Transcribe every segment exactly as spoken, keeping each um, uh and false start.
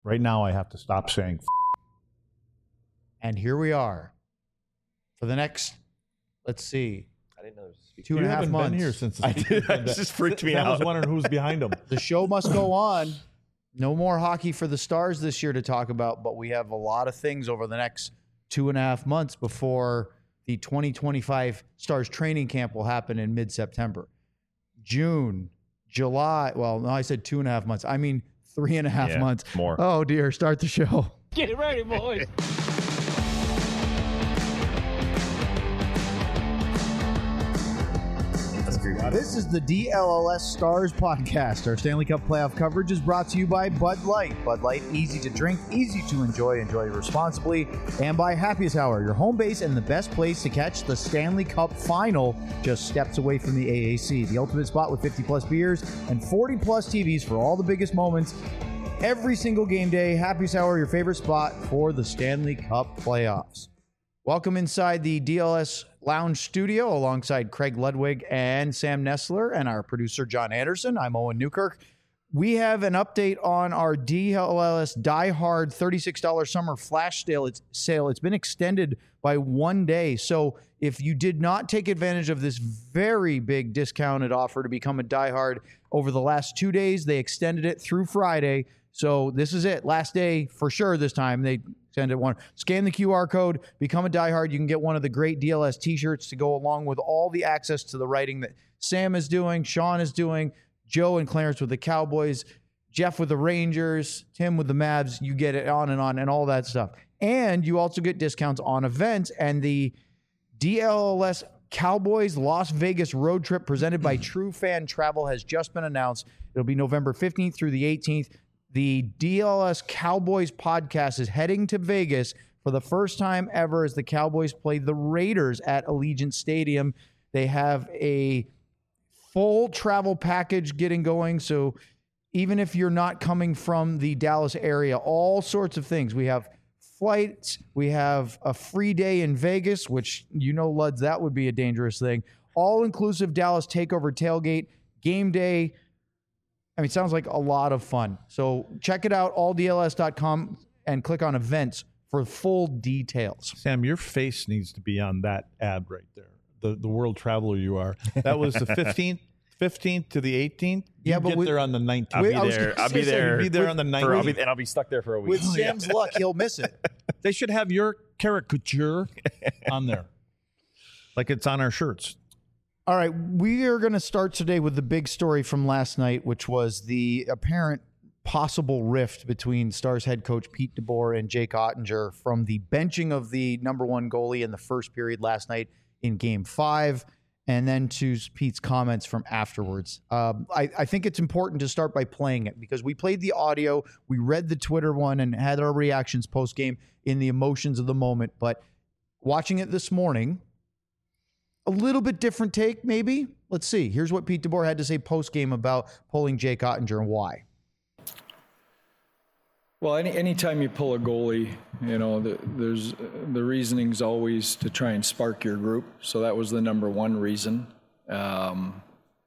Right now, I have to stop saying f- And here we are for the next, let's see, I didn't know there was a two and you a half haven't months. been here since the I speaking did. That pandemic. just freaked me Sam out. was wondering who's behind him. The show must go on. No more hockey for the Stars this year to talk about, but we have a lot of things over the next two and a half months before the twenty twenty-five Stars training camp will happen in mid-September. June, July. Well, no, I said two and a half months. I mean three and a half Yeah, months. more. Oh, dear. Start the show. Get ready, boys. That's creepy. This is the D L L S Stars podcast. Our Stanley Cup playoff coverage is brought to you by Bud Light. Bud Light, easy to drink, easy to enjoy, enjoy responsibly. And by Happiest Hour, your home base and the best place to catch the Stanley Cup final, just steps away from the A A C. The ultimate spot with fifty plus beers and forty plus T Vs for all the biggest moments. Every single game day, Happiest Hour, your favorite spot for the Stanley Cup playoffs. Welcome inside the D L S Lounge Studio alongside Craig Ludwig and Sam Nestler and our producer, John Anderson. I'm Owen Newkirk. We have an update on our D L L S Die Hard thirty-six dollars summer flash sale. It's, sale. It's been extended by one day. So if you did not take advantage of this very big discounted offer to become a Die Hard over the last two days, they extended it through Friday. So this is it. Last day for sure this time. They extended one. Scan the Q R code, become a diehard. You can get one of the great D L S t-shirts to go along with all the access to the writing that Sam is doing, Sean is doing, Joe and Clarence with the Cowboys, Jeff with the Rangers, Tim with the Mavs. You get it on and on and all that stuff. And you also get discounts on events. And the D L L S Cowboys Las Vegas road trip presented by True Fan Travel has just been announced. It'll be November fifteenth through the eighteenth. The D L S Cowboys podcast is heading to Vegas for the first time ever as the Cowboys play the Raiders at Allegiant Stadium. They have a full travel package getting going. So even if you're not coming from the Dallas area, all sorts of things. We have flights. We have a free day in Vegas, which, you know, Luds, that would be a dangerous thing. All-inclusive Dallas takeover tailgate, game day. I mean, it sounds like a lot of fun. So check it out, all D L S dot com, and click on events for full details. Sam, your face needs to be on that ad right there. The the world traveler you are. That was the fifteenth, fifteenth to the eighteenth. Yeah, You but get with- there on the nineteenth. I'll be I was there. gonna I'll be say, there. You'll be there on the for- I'll nineteenth. be, and I'll be stuck there for a week. With Sam's luck, he'll miss it. They should have your caricature on there, like it's on our shirts. All right, we are going to start today with the big story from last night, which was the apparent possible rift between Stars head coach Pete DeBoer and Jake Ottinger from the benching of the number one goalie in the first period last night in game five, and then to Pete's comments from afterwards. Um, I, I think it's important to start by playing it because we played the audio, we read the Twitter one and had our reactions post-game in the emotions of the moment, but watching it this morning, a little bit different take, maybe. Let's see. Here's what Pete DeBoer had to say post-game about pulling Jake Ottinger and why. Well, any anytime you pull a goalie, you know, the, there's the reasoning's always to try and spark your group. So that was the number one reason. Um,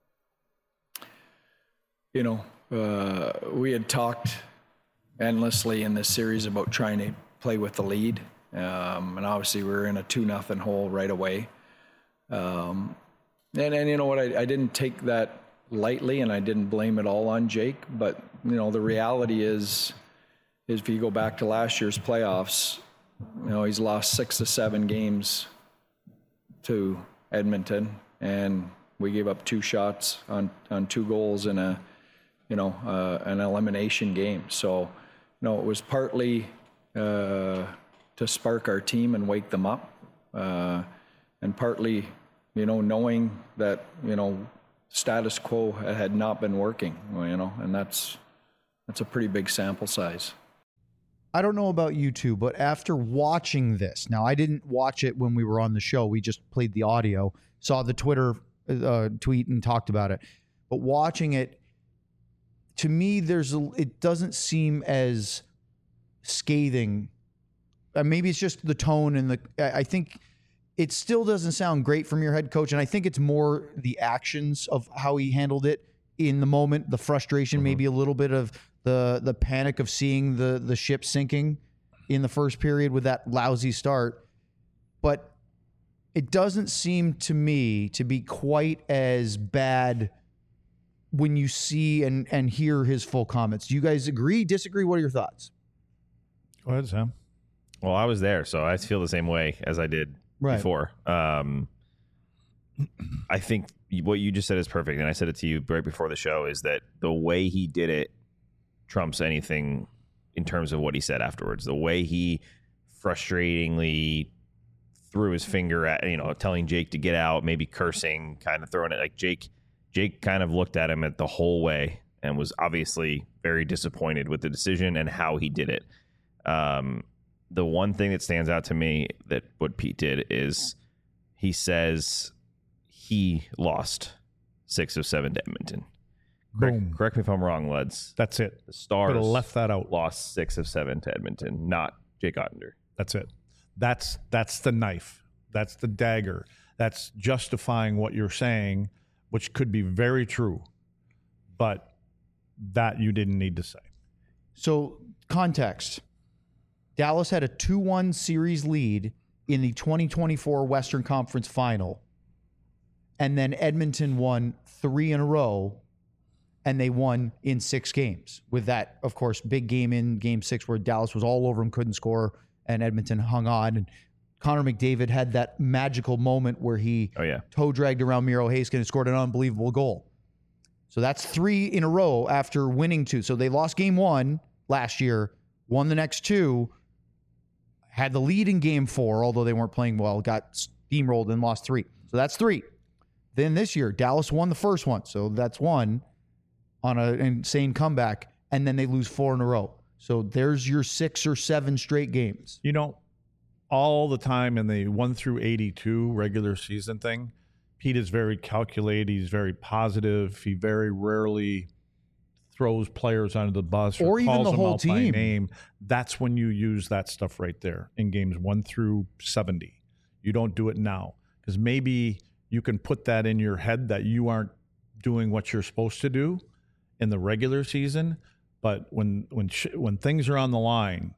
you know, uh, we had talked endlessly in this series about trying to play with the lead, um, and obviously we were in a two nothing hole right away. Um, and, and you know what, I, I didn't take that lightly and I didn't blame it all on Jake, but you know, the reality is, is if you go back to last year's playoffs, you know, he's lost six to seven games to Edmonton and we gave up two shots on, on two goals in a, you know, uh, an elimination game. So, you know, it was partly, uh, to spark our team and wake them up. Uh, And partly, you know, knowing that, you know, status quo had not been working, you know, and that's that's a pretty big sample size. I don't know about you two, but after watching this, now I didn't watch it when we were on the show. We just played the audio, saw the Twitter uh, tweet and talked about it. But watching it, to me, there's a, it doesn't seem as scathing. Uh, maybe it's just the tone and the, I, I think it still doesn't sound great from your head coach. And I think it's more the actions of how he handled it in the moment, the frustration, mm-hmm. maybe a little bit of the the panic of seeing the the ship sinking in the first period with that lousy start. But it doesn't seem to me to be quite as bad when you see and, and hear his full comments. Do you guys agree, disagree? What are your thoughts? Go ahead, Sam. Well, I was there, so I feel the same way as I did Right. before. Um, I think what you just said is perfect, and I said it to you right before the show, is that the way he did it trumps anything in terms of what he said afterwards. The way he frustratingly threw his finger at, you know, telling Jake to get out, maybe cursing, kind of throwing it like Jake. Jake kind of looked at him at the whole way and was obviously very disappointed with the decision and how he did it. Um, the one thing that stands out to me that what Pete did is he says he lost six of seven to Edmonton. Correct, Boom. correct me if I'm wrong, Leds. That's it. The Stars Could have left that out. lost six of seven to Edmonton, not Jake Ottender. That's it. That's that's the knife. That's the dagger. That's justifying what you're saying, which could be very true, but that you didn't need to say. So, context. Dallas had a two one series lead in the twenty twenty-four Western Conference Final, and then Edmonton won three in a row, and they won in six games. With that, of course, big game in game six where Dallas was all over him, couldn't score, and Edmonton hung on. And Connor McDavid had that magical moment where he Oh, yeah. toe dragged around Miro Heiskanen and scored an unbelievable goal. So that's three in a row after winning two. So they lost game one last year, won the next two, had the lead in game four, although they weren't playing well, got steamrolled and lost three. So that's three. Then this year, Dallas won the first one. So that's one on an insane comeback. And then they lose four in a row. So there's your six or seven straight games. You know, all the time in the one through eighty-two regular season thing, Pete is very calculated. He's very positive. He very rarely throws players under the bus or, Or even calls the them whole out team. by name. That's when you use that stuff right there in games one through seventy. You don't do it now because maybe you can put that in your head that you aren't doing what you're supposed to do in the regular season. But when when sh- when things are on the line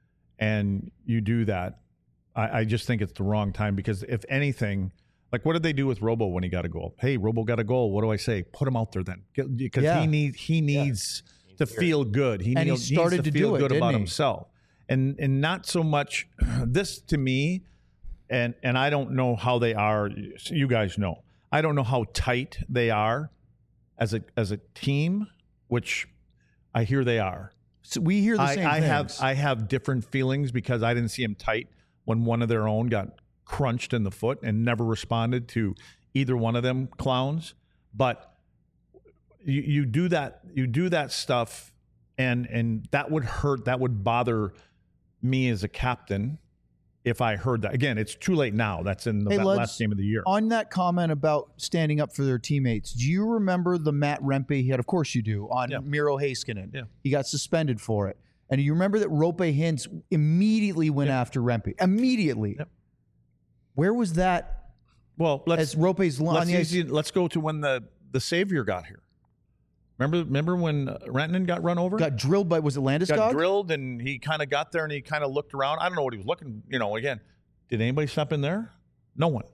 and you do that, I, I just think it's the wrong time because if anything, like what did they do with Robo when he got a goal? Hey, Robo got a goal. What do I say? Put him out there then, because Yeah. he needs he needs to feel good. He, And he needs, started needs to, to feel do it, good didn't about he? himself, and and not so much this to me. And and I don't know how they are. You guys know. I don't know how tight they are as a as a team, which I hear they are. So we hear the I, same I things. have I have different feelings because I didn't see him tight when one of their own got crunched in the foot and never responded to either one of them clowns. But you, you do that you do that stuff and and that would hurt, that would bother me as a captain if I heard that. Again, it's too late now. That's in the Hey, that let's- last game of the year. On that comment about standing up for their teammates, do you remember the Matt Rempe he had? Of course you do, on Yeah. Miro Heiskanen. Yeah. He got suspended for it. And you remember that Rope Hintz immediately went after Rempe. Immediately. Yep. Where was that Well, let's as Rope's on let's, the ice? easy- let's go to when the the savior got here. Remember remember when uh, Rantanen got run over? Got drilled by, was it got Landeskog? drilled and he kind of got there and he kind of looked around. I don't know what he was looking, you know, again, did anybody step in there? No one.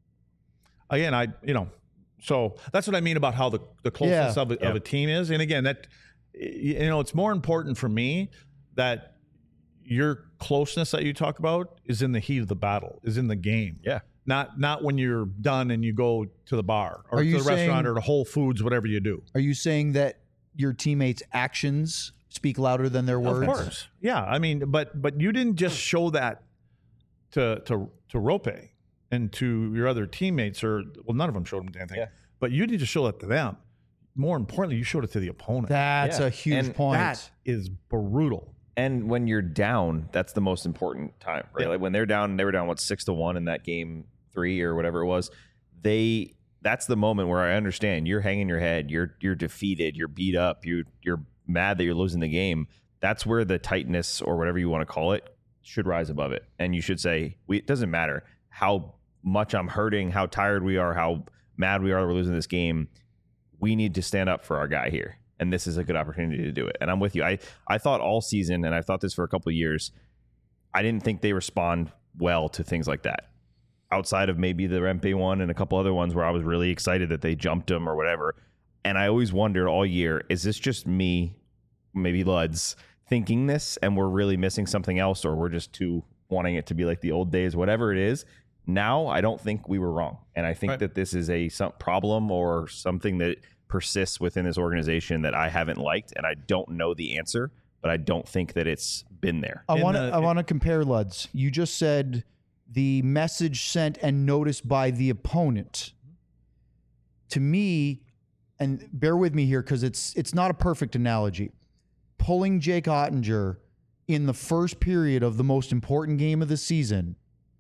Again, I, you know, so that's what I mean about how the, the closeness Yeah. of, a, of a team is. And again, that, you know, it's more important for me that your closeness that you talk about is in the heat of the battle, is in the game. Yeah. Not, not when you're done and you go to the bar or Are to you the restaurant saying- or to Whole Foods, whatever you do. Are you saying that your teammates' actions speak louder than their words? Of course. Yeah. I mean, but but you didn't just show that to to to Rope and to your other teammates, or well, none of them showed them anything. Yeah. But you didn't just show that to them. More importantly, you showed it to the opponent. That's Yeah. a huge And point. That is brutal. And when you're down, that's the most important time, right? Yeah. Like when they're down, they were down what six to one in that game three or whatever it was. They that's the moment where I understand you're hanging your head, you're you're defeated, you're beat up, you you're mad that you're losing the game. That's where the tightness or whatever you want to call it should rise above it, and you should say, "We it doesn't matter how much I'm hurting, how tired we are, how mad we are that we're losing this game. We need to stand up for our guy here." and this is a good opportunity to do it. And I'm with you. I, I thought all season, and I've thought this for a couple of years, I didn't think they respond well to things like that. Outside of maybe the Rempe one and a couple other ones where I was really excited that they jumped him or whatever. And I always wondered all year, is this just me, maybe Luds, thinking this and we're really missing something else, or we're just too wanting it to be like the old days, whatever it is. Now, I don't think we were wrong. And I think right. that this is a some problem or something that persists within this organization that I haven't liked. And I don't know the answer, but I don't think that it's been there. I In want to the- I want to compare, Luds. You just said the message sent and noticed by the opponent. To me, and bear with me here because it's it's not a perfect analogy. Pulling Jake Ottinger in the first period of the most important game of the season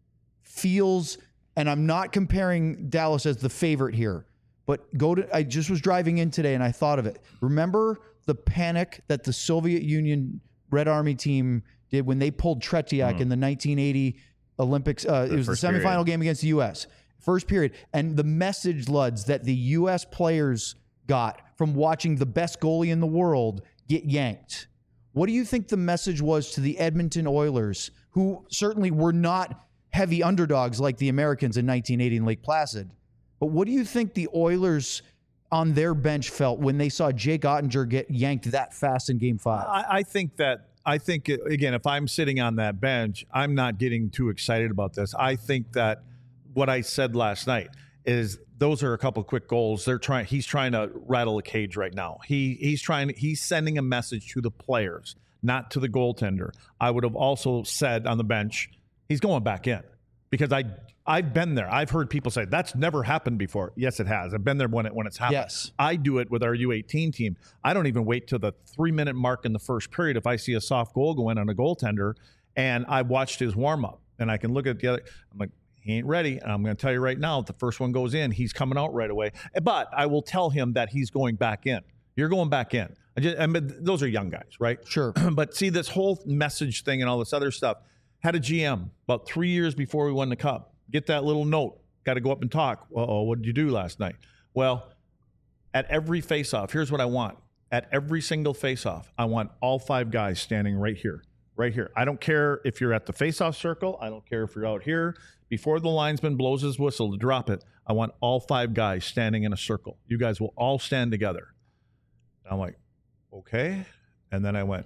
feels, and I'm not comparing Dallas as the favorite here, but go to, I just was driving in today and I thought of it. Remember the panic that the Soviet Union Red Army team did when they pulled Tretiak Mm. in the nineteen eighty Olympics? Uh, it was the first semifinal period. game against the U S First period. And the message, Luds, that the U S players got from watching the best goalie in the world get yanked. What do you think the message was to the Edmonton Oilers, who certainly were not heavy underdogs like the Americans in nineteen eighty in Lake Placid? But what do you think the Oilers on their bench felt when they saw Jake Ottinger get yanked that fast in Game Five? I, I think that I think again, if I'm sitting on that bench, I'm not getting too excited about this. I think that what I said last night is those are a couple of quick goals. They're trying. He's trying to rattle a cage right now. He he's trying. He's sending a message to the players, not to the goaltender. I would have also said on the bench, he's going back in because I I've been there. I've heard people say that's never happened before. Yes, it has. I've been there when it when it's happened. Yes. I do it with our U eighteen team. I don't even wait till the three minute mark in the first period if I see a soft goal go in on a goaltender, and I watched his warm up, and I can look at the other. I'm like, he ain't ready. And I'm going to tell you right now, if the first one goes in, he's coming out right away. But I will tell him that he's going back in. You're going back in. I, just, I mean, those are young guys, right? Sure. But see, this whole message thing and all this other stuff. Had a G M about three years before we won the cup. Get that little note. Got to go up and talk. Uh-oh, what did you do last night? Well, at every face-off, here's what I want. At every single face-off, I want all five guys standing right here. Right here. I don't care if you're at the face-off circle. I don't care if you're out here. Before the linesman blows his whistle to drop it, I want all five guys standing in a circle. You guys will all stand together. And I'm like, okay. And then I went,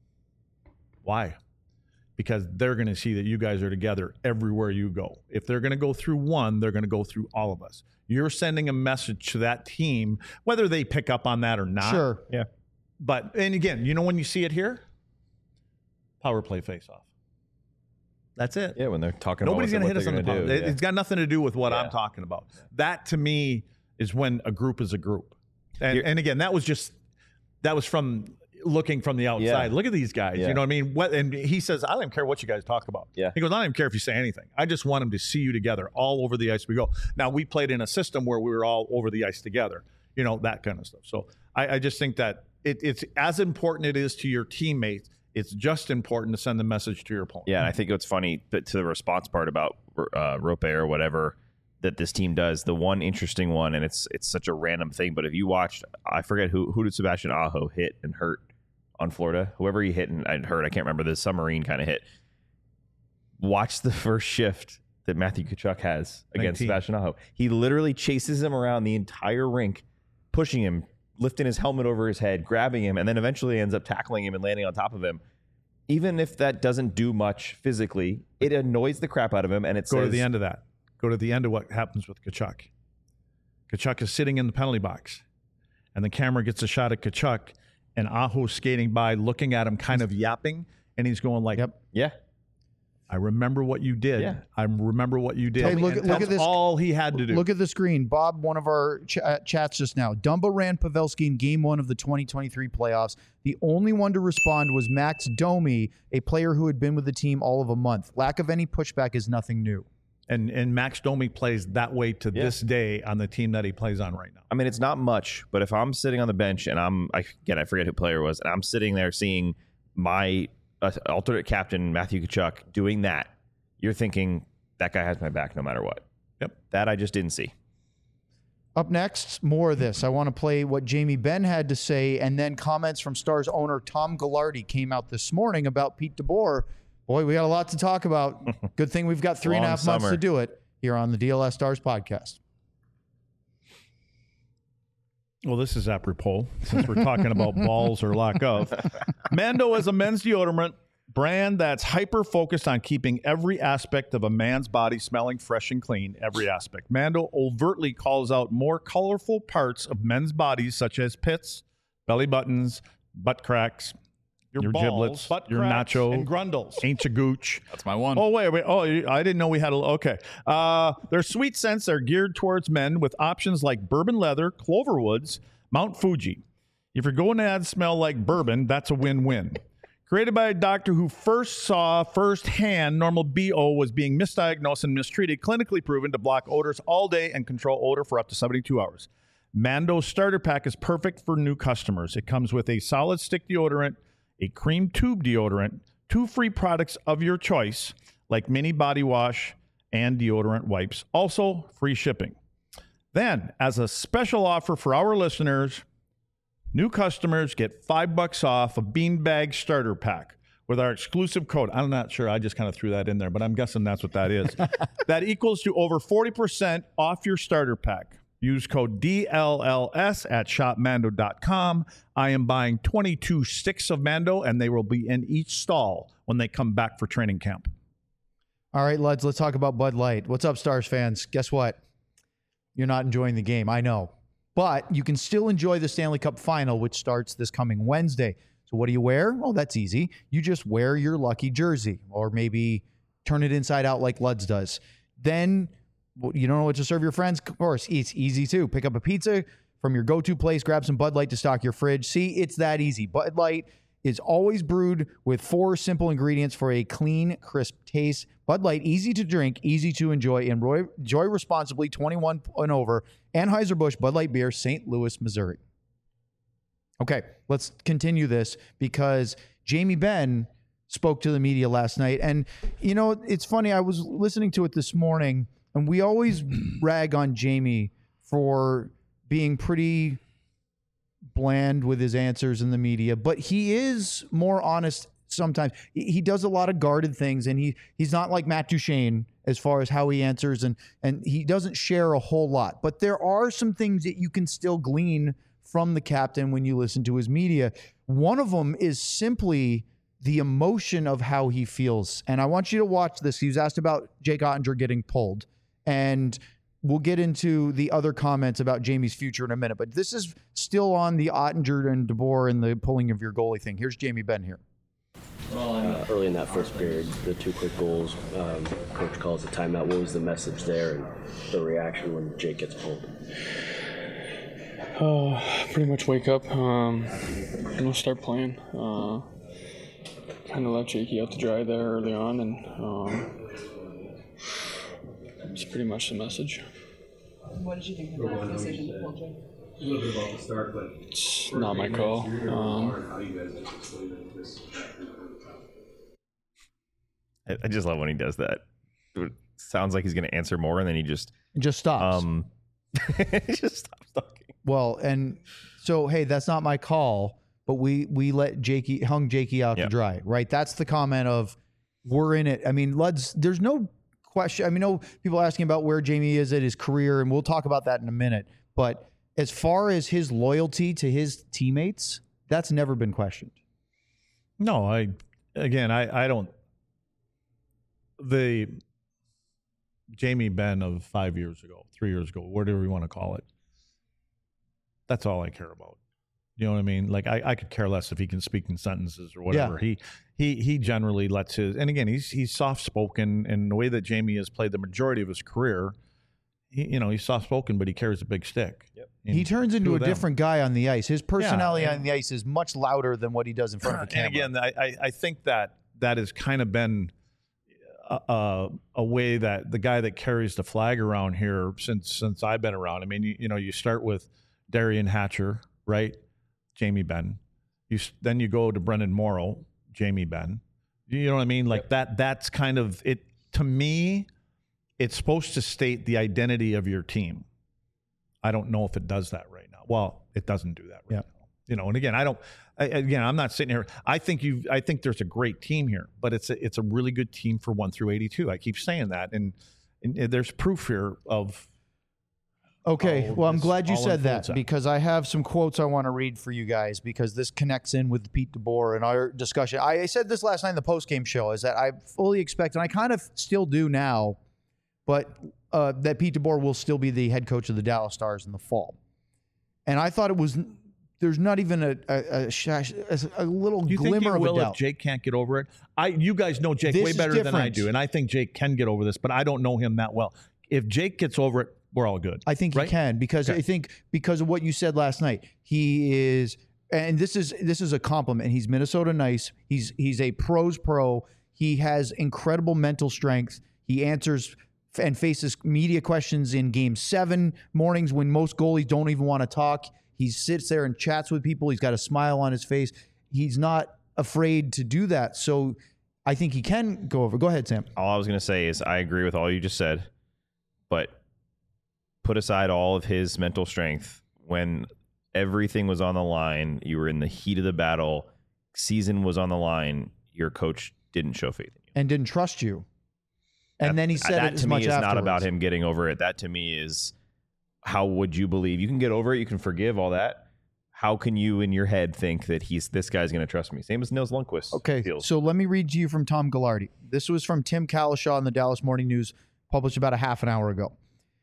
why? Because they're going to see that you guys are together everywhere you go. If they're going to go through one, they're going to go through all of us. You're sending a message to that team, whether they pick up on that or not. Sure. Yeah. But, and again, you know when you see it here? Power play face-off. That's it. Yeah, when they're talking Nobody's about going what to hit they're us on the gonna power. do. It, It's got nothing to do with what Yeah. I'm talking about. That, to me, is when a group is a group. And, You're- and again, that was just, that was from looking from the outside. Yeah. Look at these guys. Yeah. You know what I mean? What, and he says, I don't even care what you guys talk about. Yeah. He goes, I don't even care if you say anything. I just want them to see you together all over the ice we go. Now, we played in a system where we were all over the ice together, you know, that kind of stuff. So I, I just think that it, it's as important it is to your teammates, it's just important to send the message to your opponent. Yeah, and I think what's funny, but to the response part about uh, Rope or whatever that this team does, the one interesting one, and it's it's such a random thing, but if you watched, I forget who who did Sebastian Aho hit and hurt on Florida? Whoever he hit and, and hurt, I can't remember, the submarine kind of hit. Watch the first shift that Matthew Tkachuk has against nineteen. Sebastian Aho. He literally chases him around the entire rink, pushing him, lifting his helmet over his head, grabbing him, and then eventually ends up tackling him and landing on top of him. Even if that doesn't do much physically, it annoys the crap out of him, and it Go says, to the end of that. Go to the end of what happens with Tkachuk. Tkachuk is sitting in the penalty box, and the camera gets a shot of Tkachuk, and Aho's skating by, looking at him, kind of yapping, and he's going like, Yep. yeah, I remember what you did. Yeah. I remember what you did. Hey, look And at- look that's at this. all he had to do. Look at the screen. Bob, one of our ch- uh, chats just now. Dumba ran Pavelski in game one of the twenty twenty-three playoffs. The only one to respond was Max Domi, a player who had been with the team all of a month. Lack of any pushback is nothing new. and and Max Domi plays that way to Yeah. this day on the team that he plays on right now. I mean, it's not much, but if I'm sitting on the bench and I'm, I, again, I forget who player it was, and I'm sitting there seeing my uh, alternate captain, Matthew Tkachuk, doing that, you're thinking, that guy has my back no matter what. Yep. That I just didn't see. Up next, more of this. I want to play what Jamie Benn had to say, and then comments from Stars owner Tom Ghilardi came out this morning about Pete DeBoer. Boy, we got a lot to talk about. Good thing we've got three and a half months to do it here on the D L S Stars podcast. Well, this is apropos since we're talking about balls or lack of. Mando is a men's deodorant brand that's hyper-focused on keeping every aspect of a man's body smelling fresh and clean, every aspect. Mando overtly calls out more colorful parts of men's bodies, such as pits, belly buttons, butt cracks, your, your balls, giblets, butt your cracks, nacho, and grundles. ain't ya gooch. That's my one. Oh, wait, wait. Oh, I didn't know we had a... Okay. Uh, their sweet scents are geared towards men with options like bourbon leather, Cloverwoods, Mount Fuji. If you're going to add smell like bourbon, that's a win-win. Created by a doctor who first saw firsthand normal B O was being misdiagnosed and mistreated, clinically proven to block odors all day and control odor for up to seventy-two hours. Mando's starter pack is perfect for new customers. It comes with a solid stick deodorant, a cream tube deodorant, two free products of your choice, like mini body wash and deodorant wipes. Also, free shipping. Then, as a special offer for our listeners, new customers get five bucks off a beanbag starter pack with our exclusive code. I'm not sure. I just kind of threw that in there, but I'm guessing that's what that is. That equals to over forty percent off your starter pack. Use code D L L S at shop mando dot com. I am buying twenty-two sticks of Mando, and they will be in each stall when they come back for training camp. All right, Luds, let's talk about Bud Light. What's up, Stars fans? Guess what? You're not enjoying the game. I know. But you can still enjoy the Stanley Cup Final, which starts this coming Wednesday. So what do you wear? Oh, that's easy. You just wear your lucky jersey, or maybe turn it inside out like Luds does. Then you don't know what to serve your friends? Of course, it's easy too. Pick up a pizza from your go-to place, grab some Bud Light to stock your fridge. See, it's that easy. Bud Light is always brewed with four simple ingredients for a clean, crisp taste. Bud Light, easy to drink, easy to enjoy. Enjoy responsibly, twenty-one and over. Anheuser-Busch Bud Light Beer, Saint Louis, Missouri. Okay, let's continue this because Jamie Benn spoke to the media last night. And, you know, it's funny. I was listening to it this morning, and we always rag on Jamie for being pretty bland with his answers in the media, but he is more honest sometimes. He does a lot of guarded things, and he he's not like Matt Duchene as far as how he answers, and and he doesn't share a whole lot. But there are some things that you can still glean from the captain when you listen to his media. One of them is simply the emotion of how he feels. And I want you to watch this. He was asked about Jake Ottinger getting pulled, and we'll get into the other comments about Jamie's future in a minute. But this is still on the Ottinger and DeBoer and the pulling of your goalie thing. Here's Jamie Benn here. Uh, early in that first period, the two quick goals, um, coach calls a timeout. What was the message there and the reaction when Jake gets pulled? Uh, pretty much wake up, um, and we'll start playing. Uh, kind of let Jakey out to dry there early on, and um, it's pretty much the message. What did you think of that decision to pull Jake? A little bit about the start, but it's not my call. Um, I, I just love when he does that. It sounds like he's going to answer more, and then he just It just stops. um, he just stops talking. Well, and so, hey, that's not my call, but we we let Jakey, hung Jakey out Yep. to dry, right? That's the comment of, we're in it. I mean, Luds, there's no question. I mean, no people asking about where Jamie is at his career, and we'll talk about that in a minute. But as far as his loyalty to his teammates, that's never been questioned. No, I again, I, I don't. The Jamie Benn of five years ago, three years ago, whatever you want to call it, that's all I care about. You know what I mean? Like I, I could care less if he can speak in sentences or whatever. Yeah. He he he generally lets his, and again, he's he's soft spoken, and the way that Jamie has played the majority of his career, he, you know, he's soft spoken, but he carries a big stick. Yep. And He turns into two a of them. different guy on the ice. His personality and- on the ice is much louder than what he does in front of a camera. And again, I, I, I think that that has kind of been a, a, a way that the guy that carries the flag around here since since I've been around. I mean, you, you know, you start with Darian Hatcher, right? Jamie Benn. You s- then you go to Brendan Morrow, Jamie Benn. You know what I mean? Like that. That's kind of it. To me, it's supposed to state the identity of your team. I don't know if it does that right now. Well, it doesn't do that right Yeah. now. You know, and again, I don't. I, again, I'm not sitting here. I think you. I think there's a great team here, but it's a, it's a really good team for one through eighty-two. I keep saying that, and, and there's proof here of. Okay, how well, I'm this glad you all said unfolds that out. because I have some quotes I want to read for you guys because this connects in with Pete DeBoer and our discussion. I, I said this last night in the postgame show is that I fully expect, and I kind of still do now, but uh, that Pete DeBoer will still be the head coach of the Dallas Stars in the fall. And I thought it was there's not even a a, a, shash, a, a little Do you think he glimmer of will a if doubt. Jake can't get over it? I, you guys know Jake This way is better than I different. do, and I think Jake can get over this, but I don't know him that well. If Jake gets over it, we're all good. I think right? he can because Okay. I think because of what you said last night, he is, and this is this is a compliment. He's Minnesota nice. He's he's a pros pro. He has incredible mental strength. He answers and faces media questions in Game Seven mornings when most goalies don't even want to talk. He sits there and chats with people. He's got a smile on his face. He's not afraid to do that. So I think he can go over. Go ahead, Sam. All I was going to say is I agree with all you just said, but put aside all of his mental strength. When everything was on the line, you were in the heat of the battle, season was on the line, your coach didn't show faith in you. And didn't trust you. And That- then he said that it as to me much is not afterwards. about him getting over it. That to me is how would you believe? You can get over it, you can forgive all that. How can you in your head think that he's this guy's going to trust me? Same as Nils Lundqvist. Okay, feels. so let me read to you from Tom Gallardi. This was from Tim Kalishaw in the Dallas Morning News, published about a half an hour ago.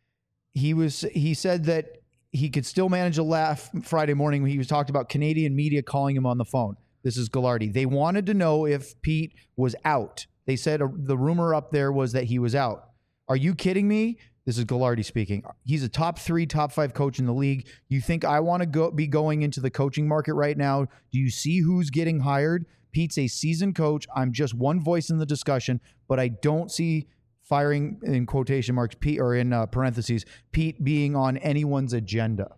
He was he said that he could still manage a laugh Friday morning when he was talked about Canadian media calling him on the phone. This is Gallardi. They wanted to know if Pete was out. They said uh, the rumor up there was that he was out. Are you kidding me? This is Gallardi speaking. He's a top three, top five coach in the league. You think I want to go be going into the coaching market right now? Do you see who's getting hired? Pete's a seasoned coach. I'm just one voice in the discussion, but I don't see firing in quotation marks Pete or in uh, parentheses Pete being on anyone's agenda.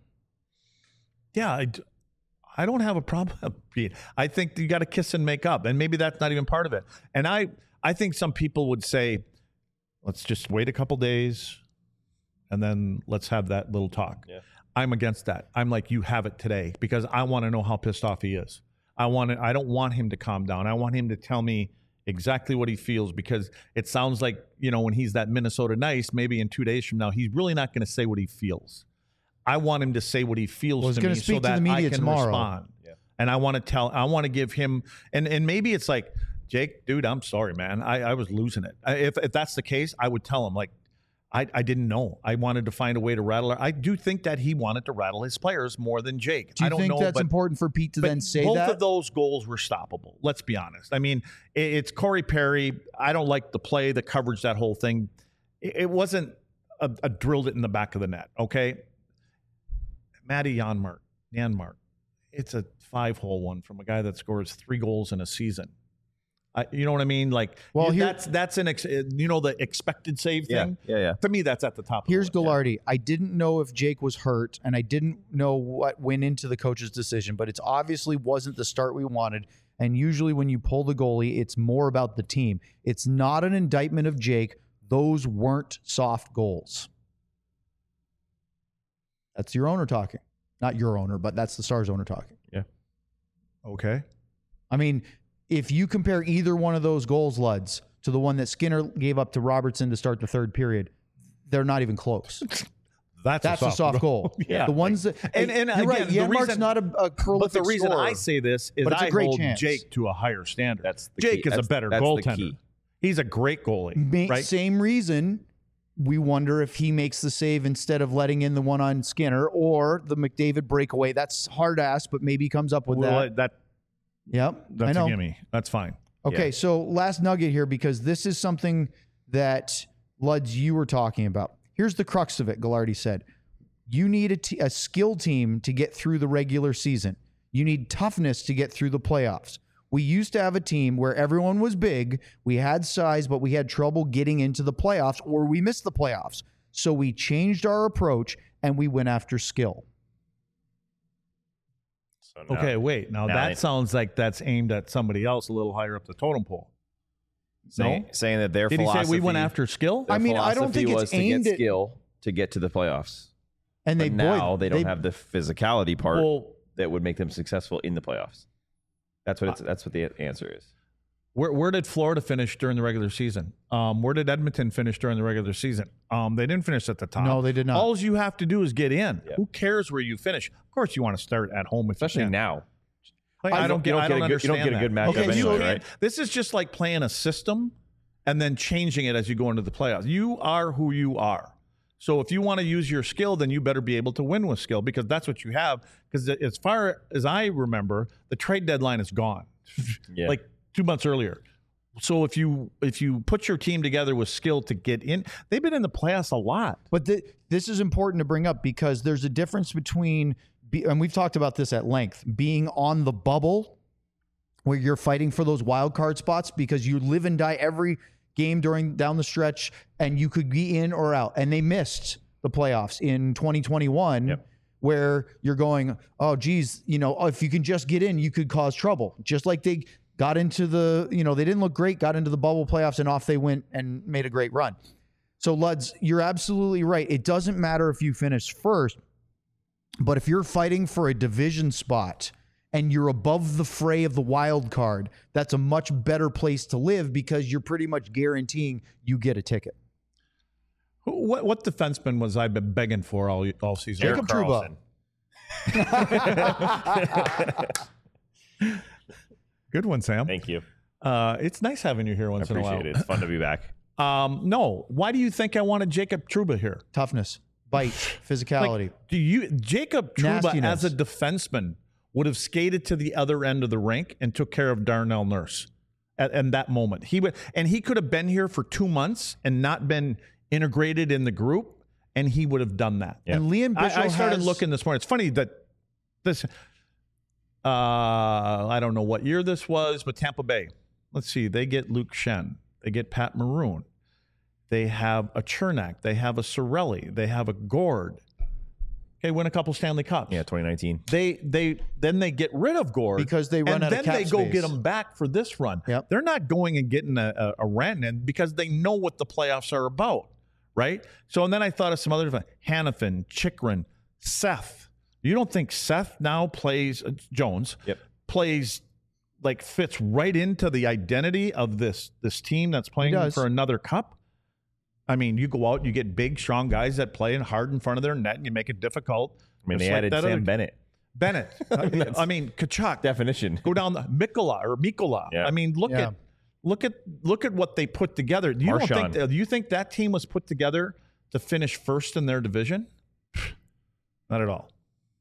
Yeah, I, d- I don't have a problem, Pete. I think you got to kiss and make up, and maybe that's not even part of it. And I, I think some people would say, let's just wait a couple days, and then let's have that little talk. Yeah. I'm against that. I'm like, you have it today because I want to know how pissed off he is. I want to, I don't want him to calm down. I want him to tell me exactly what he feels because it sounds like, you know, when he's that Minnesota nice, maybe in two days from now, he's really not going to say what he feels. I want him to say what he feels Well, he's to gonna me speak so to that the media I can tomorrow. respond. Yeah. And I want to tell, I want to give him, and, and maybe it's like, Jake, dude, I'm sorry, man. I, I was losing it. I, if, if that's the case, I would tell him, like, I, I didn't know. I wanted to find a way to rattle her. I do think that he wanted to rattle his players more than Jake. Do you I don't think know, that's but, important for Pete to but then say both that? of those goals were stoppable. Let's be honest. I mean, it, it's Corey Perry. I don't like the play, the coverage, that whole thing. It, it wasn't a, a drilled it in the back of the net. Okay, Matty Janmark, Janmark. It's a five-hole one from a guy that scores three goals in a season. I, you know what I mean? Like, Well, you- here- that's that's an ex, you know the expected save Yeah, thing. yeah, yeah. To me, that's at the top. Here's of the list. Gallardi. I didn't know if Jake was hurt, and I didn't know what went into the coach's decision, but it's obviously wasn't the start we wanted. And usually when you pull the goalie, it's more about the team. It's not an indictment of Jake. Those weren't soft goals. That's your owner talking. Not your owner, but that's the Stars owner talking. Okay. I mean, if you compare either one of those goals, Luds, to the one that Skinner gave up to Robertson to start the third period, they're not even close. That's, That's a soft goal. Yeah. The ones that And- and you're right. again, the Janmark's reason- not a, a prolific But the reason scorer. I say this is But it's a I great hold chance. Jake to a higher standard. That's the Jake key. is a That's- better that's the goaltender. key. He's a great goalie, Ma- right? Same reason we wonder if he makes the save instead of letting in the one on Skinner or the McDavid breakaway. That's hard ass, but maybe he comes up with Well, that. that Yep, that's I know. a gimme. That's fine. Okay, Yeah. so last nugget here, because this is something that, Luds, you were talking about. Here's the crux of it, Gallardi said. You need a, t- a skill team to get through the regular season. You need toughness to get through the playoffs. We used to have a team where everyone was big, we had size, but we had trouble getting into the playoffs or we missed the playoffs. So we changed our approach and we went after skill. So now- Okay, wait. Now, now that they- sounds like that's aimed at somebody else a little higher up the totem pole. saying, No? saying that their Did he philosophy. say we went after skill? their I mean, I don't philosophy think it's was to aimed get at- skill to get to the playoffs. And they But now boy, they don't have the physicality part Well, that would make them successful in the playoffs. That's what it's. That's what the answer is. Where where did Florida finish during the regular season? Um, where did Edmonton finish during the regular season? Um, they didn't finish at the top. No, they did not. All you have to do is get in. Yeah. Who cares where you finish? Of course, you want to start at home, if Especially you can. now. Like, I I don't- don't get. you don't I get don't a good- you don't understand get a good that. matchup Okay, you anyway, can't- right? This is just like playing a system and then changing it as you go into the playoffs. You are who you are. So if you want to use your skill, then you better be able to win with skill because that's what you have. Because as far as I remember, the trade deadline is gone, Yeah. like two months earlier. So if you if you put your team together with skill to get in, they've been in the playoffs a lot. But th- this is important to bring up because there's a difference between, be- and we've talked about this at length, being on the bubble where you're fighting for those wild card spots because you live and die every game during down the stretch and you could be in or out. And they missed the playoffs in twenty twenty-one Yep. where you're going, oh, geez, you know, if you can just get in, you could cause trouble. Just like they got into the, you know, they didn't look great, got into the bubble playoffs and off they went and made a great run. So, Luds, you're absolutely right. It doesn't matter if you finish first, but if you're fighting for a division spot and you're above the fray of the wild card, that's a much better place to live because you're pretty much guaranteeing you get a ticket. Who- What what defenseman was I been begging for all all season? Jacob Trouba. Good one, Sam. Thank you. Uh, it's nice having you here I once in a while. appreciate it. It's fun to be back. Um, no, why do you think I wanted Jacob Trouba here? Toughness, bite, physicality. Like, do you Jacob Trouba Nastiness. as a defenseman would have skated to the other end of the rink and took care of Darnell Nurse at, at that moment? He would, and he could have been here for two months and not been integrated in the group, and he would have done that. Yeah. And Liam Bishop I, I started has, looking this morning. It's funny that this. Uh, I don't know what year this was, but Tampa Bay. Let's see. They get Luke Shen. They get Pat Maroon. They have a Chernak. They have a Sorelli. They have a Gord. Okay, win a couple Stanley Cups. Yeah, twenty nineteen. They they then they get rid of Gord Because they run and out of then cap they go space. get him back for this run. Yep. They're not going and getting a, a, a Rantanen because they know what the playoffs are about, right? So and then I thought of some other Hannafin, Chikrin, Seth. You don't think Seth now plays uh, Jones? Yep. Plays like fits right into the identity of this this team that's playing does. for another cup. I mean, you go out, you get big, strong guys that play hard in front of their net, and you make it difficult. I mean, Just they like added that Sam other- Bennett. Bennett. I mean, I mean Kachuk. Definition. Go down the Mikola or Mikola. Yeah. I mean, look Yeah. at look at look at what they put together. You don't think Marchand. that, do you think that team was put together to finish first in their division? Not at all.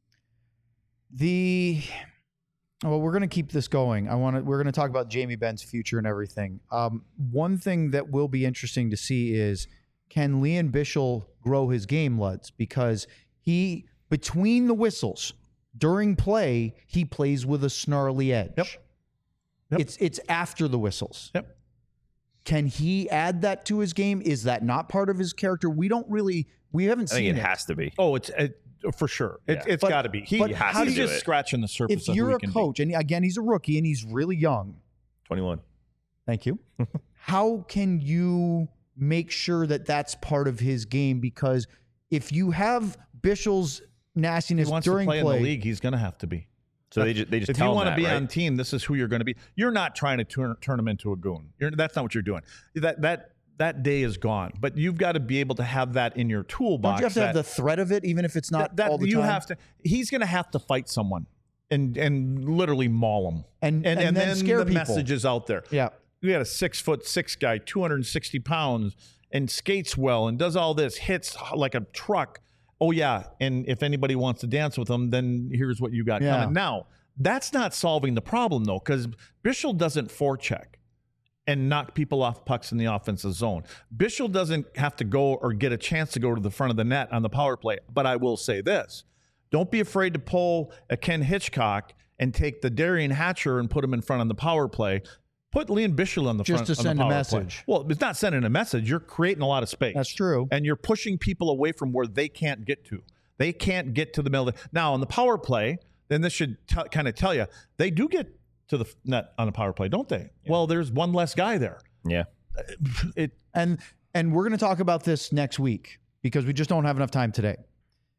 The well, we're going to keep this going. I want to. We're going to talk about Jamie Benn's future and everything. Um, one thing that will be interesting to see is can Liam Bishop grow his game, Luds, because he between the whistles during play he plays with a snarly edge. Yep. Yep. It's it's after the whistles. Yep. Can he add that to his game? Is that not part of his character? We don't really. We haven't I seen think it it. has to be. Oh, it's it, for sure. It, Yeah. It's But- got to be. He, but has how to he's do just it. scratching the surface. If of you're who he a can be. coach, and again, he's a rookie and he's really young. twenty-one. Thank you. How can you make sure that that's part of his game? Because if you have Bishop's he nastiness wants during to play, play, in the league, he's going to have to be. So they just they just if tell you him want to that, be right? on team, this is who you're going to be. You're not trying to turn turn him into a goon. You're, that's not what you're doing. That that that day is gone. But you've got to be able to have that in your toolbox. don't you have to that, have the threat of it, even if it's not that, that all the you time? have to. He's going to have to fight someone and and literally maul them. And- and, and then scare the people. message is out there. Yeah. We got a six foot six guy, two hundred sixty pounds, and skates well and does all this, hits like a truck. Oh yeah, and if anybody wants to dance with him, then here's what you got Yeah. coming. Now that's not solving the problem though, because Bishop doesn't forecheck and knock people off pucks in the offensive zone. Bishop doesn't have to go or get a chance to go to the front of the net on the power play. But I will say this: don't be afraid to pull a Ken Hitchcock and take the Darian Hatcher and put him in front on the power play. Put Liam Bishop on the Just front to on the send a power message. play. Well, it's not sending a message. You're creating a lot of space. That's true. And you're pushing people away from where they can't get to. They can't get to the middle. Of the, now, on the power play, then this should t- kind of tell you, they do get to the f- net on the power play, don't they? Well, there's one less guy there. Yeah. It And and we're going to talk about this next week because we just don't have enough time today.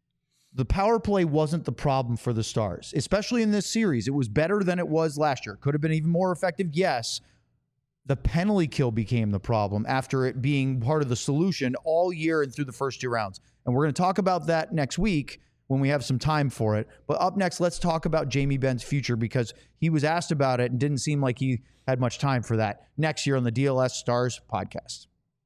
The power play wasn't the problem for the Stars, especially in this series. It was better than it was last year. Could have been even more effective, yes. The penalty kill became the problem after it being part of the solution all year and through the first two rounds. And we're going to talk about that next week when we have some time for it. But up next, let's talk about Jamie Benn's future, because he was asked about it and didn't seem like he had much time for that. Next year on the D L S Stars podcast.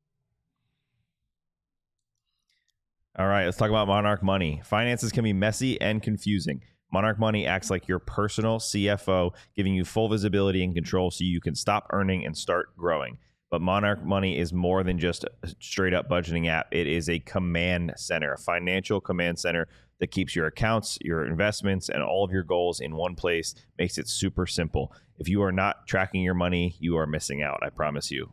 All right, let's talk about Monarch Money. Finances can be messy and confusing. Monarch Money acts like your personal C F O, giving you full visibility and control so you can stop earning and start growing. But Monarch Money is more than just a straight up budgeting app. It is a command center, a financial command center that keeps your accounts, your investments, and all of your goals in one place, makes it super simple. If you are not tracking your money, you are missing out, I promise you.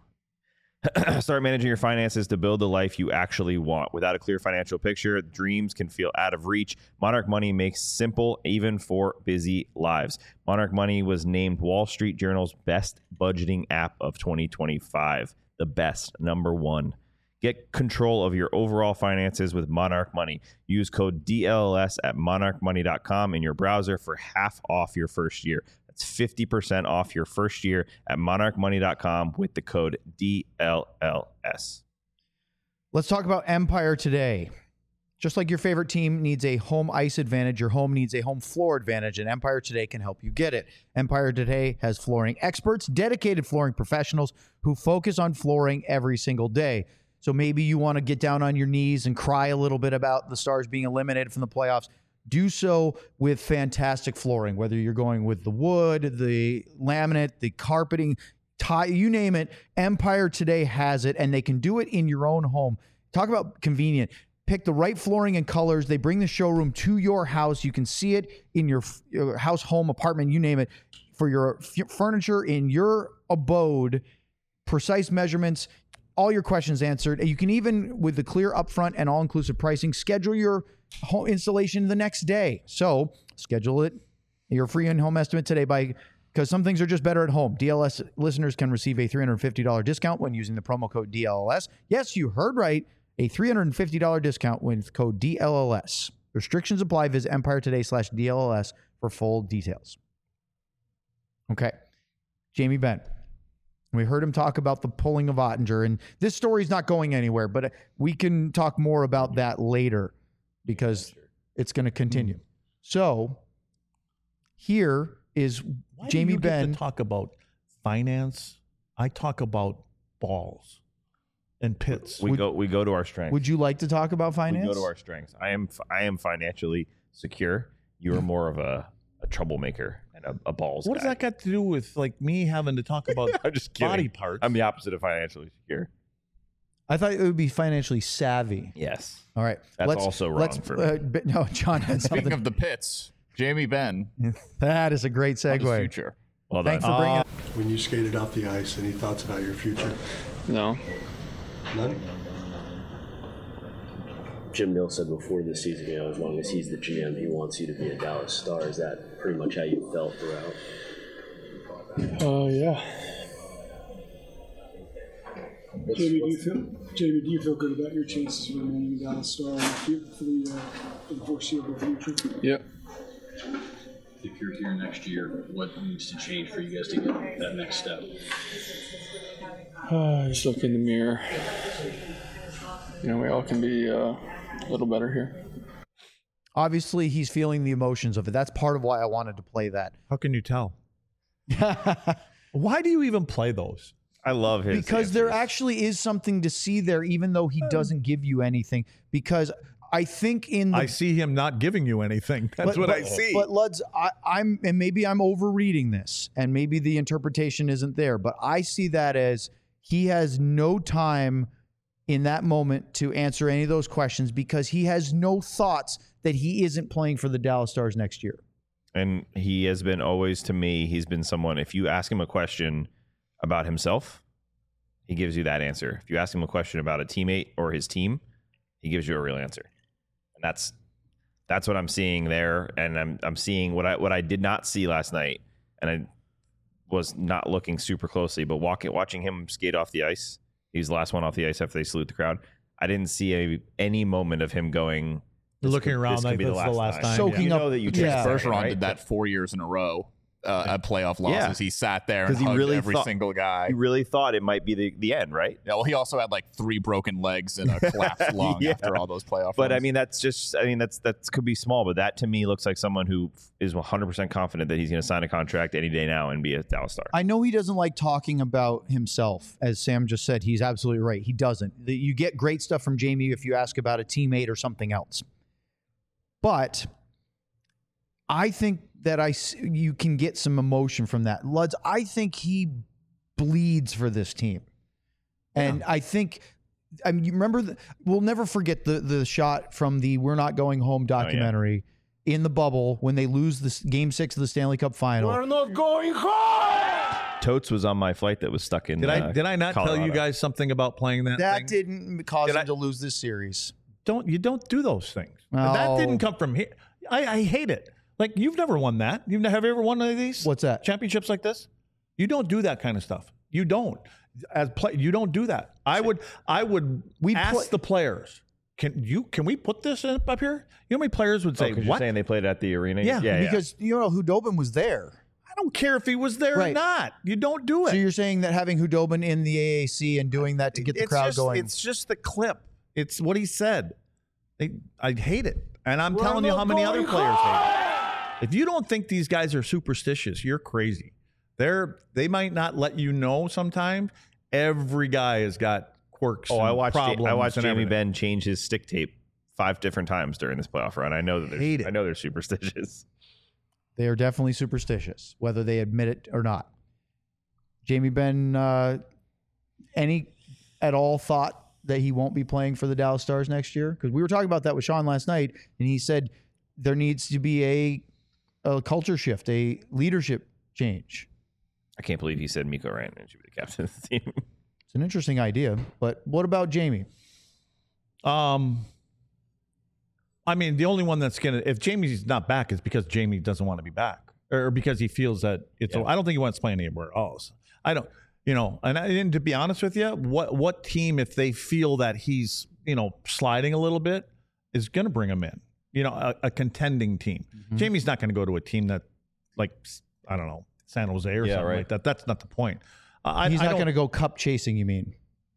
Start managing your finances to build the life you actually want. Without a clear financial picture, dreams can feel out of reach. Monarch Money makes simple even for busy lives. Monarch Money was named Wall Street Journal's best budgeting app of twenty twenty-five. The best, number one. Get control of your overall finances with Monarch Money. Use code D L L S at monarch money dot com in your browser for half off your first year. That's fifty percent off your first year at monarch money dot com with the code D L L S. Let's talk about Empire Today. Just like your favorite team needs a home ice advantage, your home needs a home floor advantage, and Empire Today can help you get it. Empire Today has flooring experts, dedicated flooring professionals who focus on flooring every single day. So maybe you want to get down on your knees and cry a little bit about the Stars being eliminated from the playoffs. Do so with fantastic flooring, whether you're going with the wood, the laminate, the carpeting, tie, you name it. Empire Today has it, and they can do it in your own home. Talk about convenient. Pick the right flooring and colors. They bring the showroom to your house. You can see it in your, your house, home, apartment, you name it, for your f- furniture in your abode. Precise measurements, all your questions answered. And you can even, with the clear upfront and all-inclusive pricing, schedule your home installation the next day. So schedule it, your free in-home estimate today, by because some things are just better at home. D L S listeners can receive a three hundred fifty dollars discount when using the promo code D L L S. Yes, you heard right. A three hundred fifty dollars discount with code D L L S. Restrictions apply. Visit Empire Today slash D L L S for full details. Okay. Jamie Benn. We heard him talk about the pulling of Ottinger, and this story's not going anywhere, but we can talk more about that later because it's going to continue. Mm. So here is Why Jamie do you Benn. Get to talk about finance. I talk about balls and pits. We Would- go we go to our strengths. Would you like to talk about finance? We go to our strengths. I am I am financially secure. You're more of a, a troublemaker and a, a balls What guy. does that got to do with like me having to talk about I'm just kidding. body parts? I'm the opposite of financially secure. I thought it would be financially savvy. Yes. All right. That's let's, also wrong let's, for me. uh, but no, John had Speaking something. of the pits, Jamie Benn, That is a great on his segue. future. Well done. Thanks for bringing Uh, up. When you skated off the ice, any thoughts about your future? No. None? Jim Nill said before this season, you know, as long as he's the G M, he wants you to be a Dallas Star. Is that pretty much how you felt throughout? Uh, yeah. Jamie, do you feel Jamie, do you feel good about your chances of remaining a Dallas Star for the, uh, for the foreseeable future? Yep. If you're here next year, what needs to change for you guys to get that next step? Uh, just look in the mirror. You know, we all can be uh, a little better here. Obviously, he's feeling the emotions of it. That's part of why I wanted to play that. How can you tell? Why do you even play those? I love his Because answers. there actually is something to see there, even though he doesn't give you anything. Because I think in the I see him not giving you anything. That's but, what but, I see. But Luds, I, I'm and maybe I'm overreading this, and maybe the interpretation isn't there. But I see that as he has no time in that moment to answer any of those questions because he has no thoughts that he isn't playing for the Dallas Stars next year. And he has been always, to me, he's been someone, if you ask him a question about himself, he gives you that answer. If you ask him a question about a teammate or his team, he gives you a real answer. And that's that's what I'm seeing there. And I'm I'm seeing what I what I did not see last night. And I was not looking super closely, but walking watching him skate off the ice. He was the last one off the ice after they salute the crowd. I didn't see a, any moment of him going, looking could- around this could like be this is the last time. Soaking you up- know that you yeah. yeah. Bergeron right? did that four years in a row uh, at playoff losses. Yeah. He sat there and Because he hugged really every thought- single guy. He really thought it might be the, the end, right? Yeah, well, he also had like three broken legs and a collapsed lung Yeah. after all those playoff But I runs. mean, that's just, I mean, that's that could be small, but that to me looks like someone who is one hundred percent confident that he's going to sign a contract any day now and be a Dallas Star. I know he doesn't like talking about himself. As Sam just said, he's absolutely right. He doesn't. The- You get great stuff from Jamie if you ask about a teammate or something else. But I think that I s- you can get some emotion from that. Luds, I think he bleeds for this team. And I think, I mean, you remember, the, we'll never forget the the shot from the We're Not Going Home documentary in the bubble when they lose this game six of the Stanley Cup final. We're not going home. Totes was on my flight that was stuck in. Did I uh, did I not tell you Colorado. guys something about playing that? That thing? didn't cause Did him I- to lose this series. Don't you don't do those things. No. That didn't come from here. I, I hate it. Like you've never won that. You've never have you ever won any of these? What's that? Championships like this? You don't do that kind of stuff. You don't. As play, you don't do that. I would. I would. We ask play- the players. Can you? Can we put this in, up here? You know how many players would Oh, say 'cause you're what? saying they played at the arena? Yeah, yeah, Because you know Hudobin was there. I don't care if he was there or Right. not. You don't do it. So you're saying that having Hudobin in the A A C and doing that to get the it's crowd just, going. It's just the clip. It's what he said. They, I hate it, and I'm We're telling you not how many other going players hate it. If you don't think these guys are superstitious, you're crazy. They're they might not let you know sometimes. Every guy has got quirks. Oh, and I watched. problems I watched and Jamie everything. Ben change his stick tape five different times during this playoff run. I know that Hate they're. it. I know they're superstitious. They are definitely superstitious, whether they admit it or not. Jamie Benn, uh, any at all thought that he won't be playing for the Dallas Stars next year? Because we were talking about that with Sean last night, and he said there needs to be a, a culture shift, a leadership change. I can't believe he said Mikko Rantanen should be the captain of the team. It's an interesting idea, but what about Jamie? Um, I mean, the only one that's gonna if Jamie's not back is because Jamie doesn't want to be back, or because he feels that it's. Yeah. I don't think he wants to play anywhere else. I don't. You know, and, I, and to be honest with you, what what team, if they feel that he's you know sliding a little bit, is going to bring him in? You know, a, a contending team. Mm-hmm. Jamie's not going to go to a team that, like, I don't know, San Jose or Yeah, something right. like that. That's not the point. Uh, I, He's I not don't- going to go cup chasing, you mean?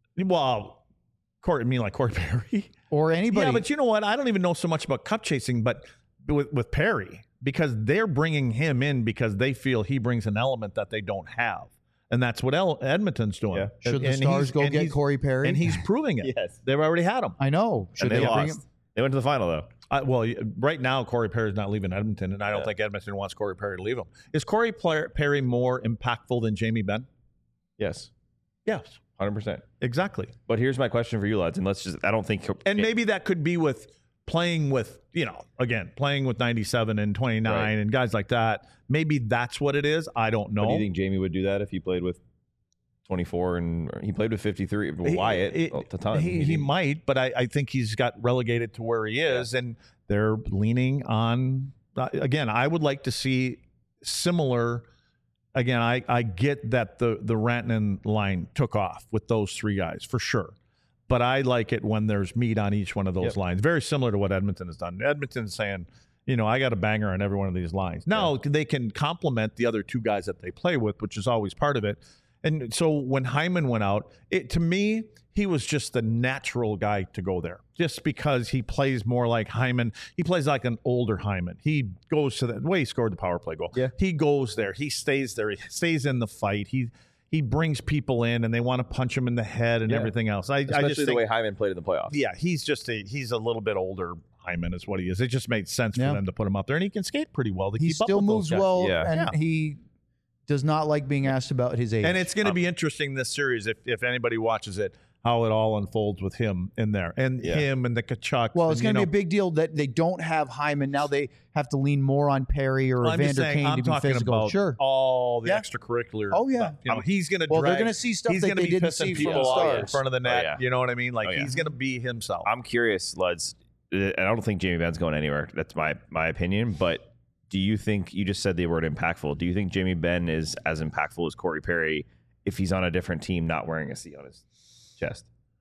Well, Corey, I mean like Corey Perry. Or anybody. Yeah, but you know what? I don't even know so much about cup chasing, but with, with Perry, because they're bringing him in because they feel he brings an element that they don't have. And that's what El- Edmonton's doing. Yeah. Should the And Stars he's- go and get he's- Corey Perry? And he's proving it. Yes. They've already had him. I know. Should And they, bring lost. him? They went to the final though. I, well, right now, Corey Perry's not leaving Edmonton, and I don't Yeah. think Edmonton wants Corey Perry to leave him. Is Corey Pla- Perry more impactful than Jamie Benn? Yes, Yes, hundred percent. exactly. But here's my question for you, lads, and let's just—I don't think. And maybe that could be with playing with, you know, again, playing with ninety-seven and twenty-nine Right. and guys like that. Maybe that's what it is. I don't know. Do you think Jamie would do that if he played with twenty-four and or he played with fifty-three? He- Wyatt he, a ton. He, he might, but I, I think he's got relegated to where he is, and they're leaning on. Uh, again, I would like to see similar. Again, I, I get that the the Rantanen line took off with those three guys for sure, but I like it when there's meat on each one of those Yep. lines. Very similar to what Edmonton has done. Edmonton's saying, you know, I got a banger on every one of these lines. Now they can complement the other two guys that they play with, which is always part of it. And so when Hyman went out, it to me, he was just the natural guy to go there, just because he plays more like Hyman. He plays like an older Hyman. He goes to the way he scored the power play goal. Yeah. He goes there. He stays there. He stays in the fight. He he brings people in, and they want to punch him in the head and Yeah. everything else. I, Especially I just the think, way Hyman played in the playoffs. yeah, he's just a he's a little bit older. Hyman is what he is. It just made sense Yeah. for them to put him out there, and he can skate pretty well. To He keep up still with those moves guys. well, Yeah. and Yeah. he does not like being asked about his age. And it's going to be interesting this series if, if anybody watches it, how it all unfolds with him in there and Yeah. him and the Kachuk. well, it's going to to be a big deal that they don't have Hyman. Now they have to lean more on Perry or I'm just Evander saying, Kane I'm to be talking physical. about Sure. all the Yeah. extracurricular. Oh, yeah. stuff. You know, he's going to. Well, they're drag, gonna see stuff he's that gonna they be didn't pissing see from people the off Stars. in front of the net. Oh, yeah. You know what I mean? Like Oh, yeah. he's going to be himself. I'm curious, Luds. and I don't think Jamie Benn's going anywhere. That's my my opinion. But do you think you just said the word impactful? Do you think Jamie Benn is as impactful as Corey Perry if he's on a different team, not wearing a C on his chest?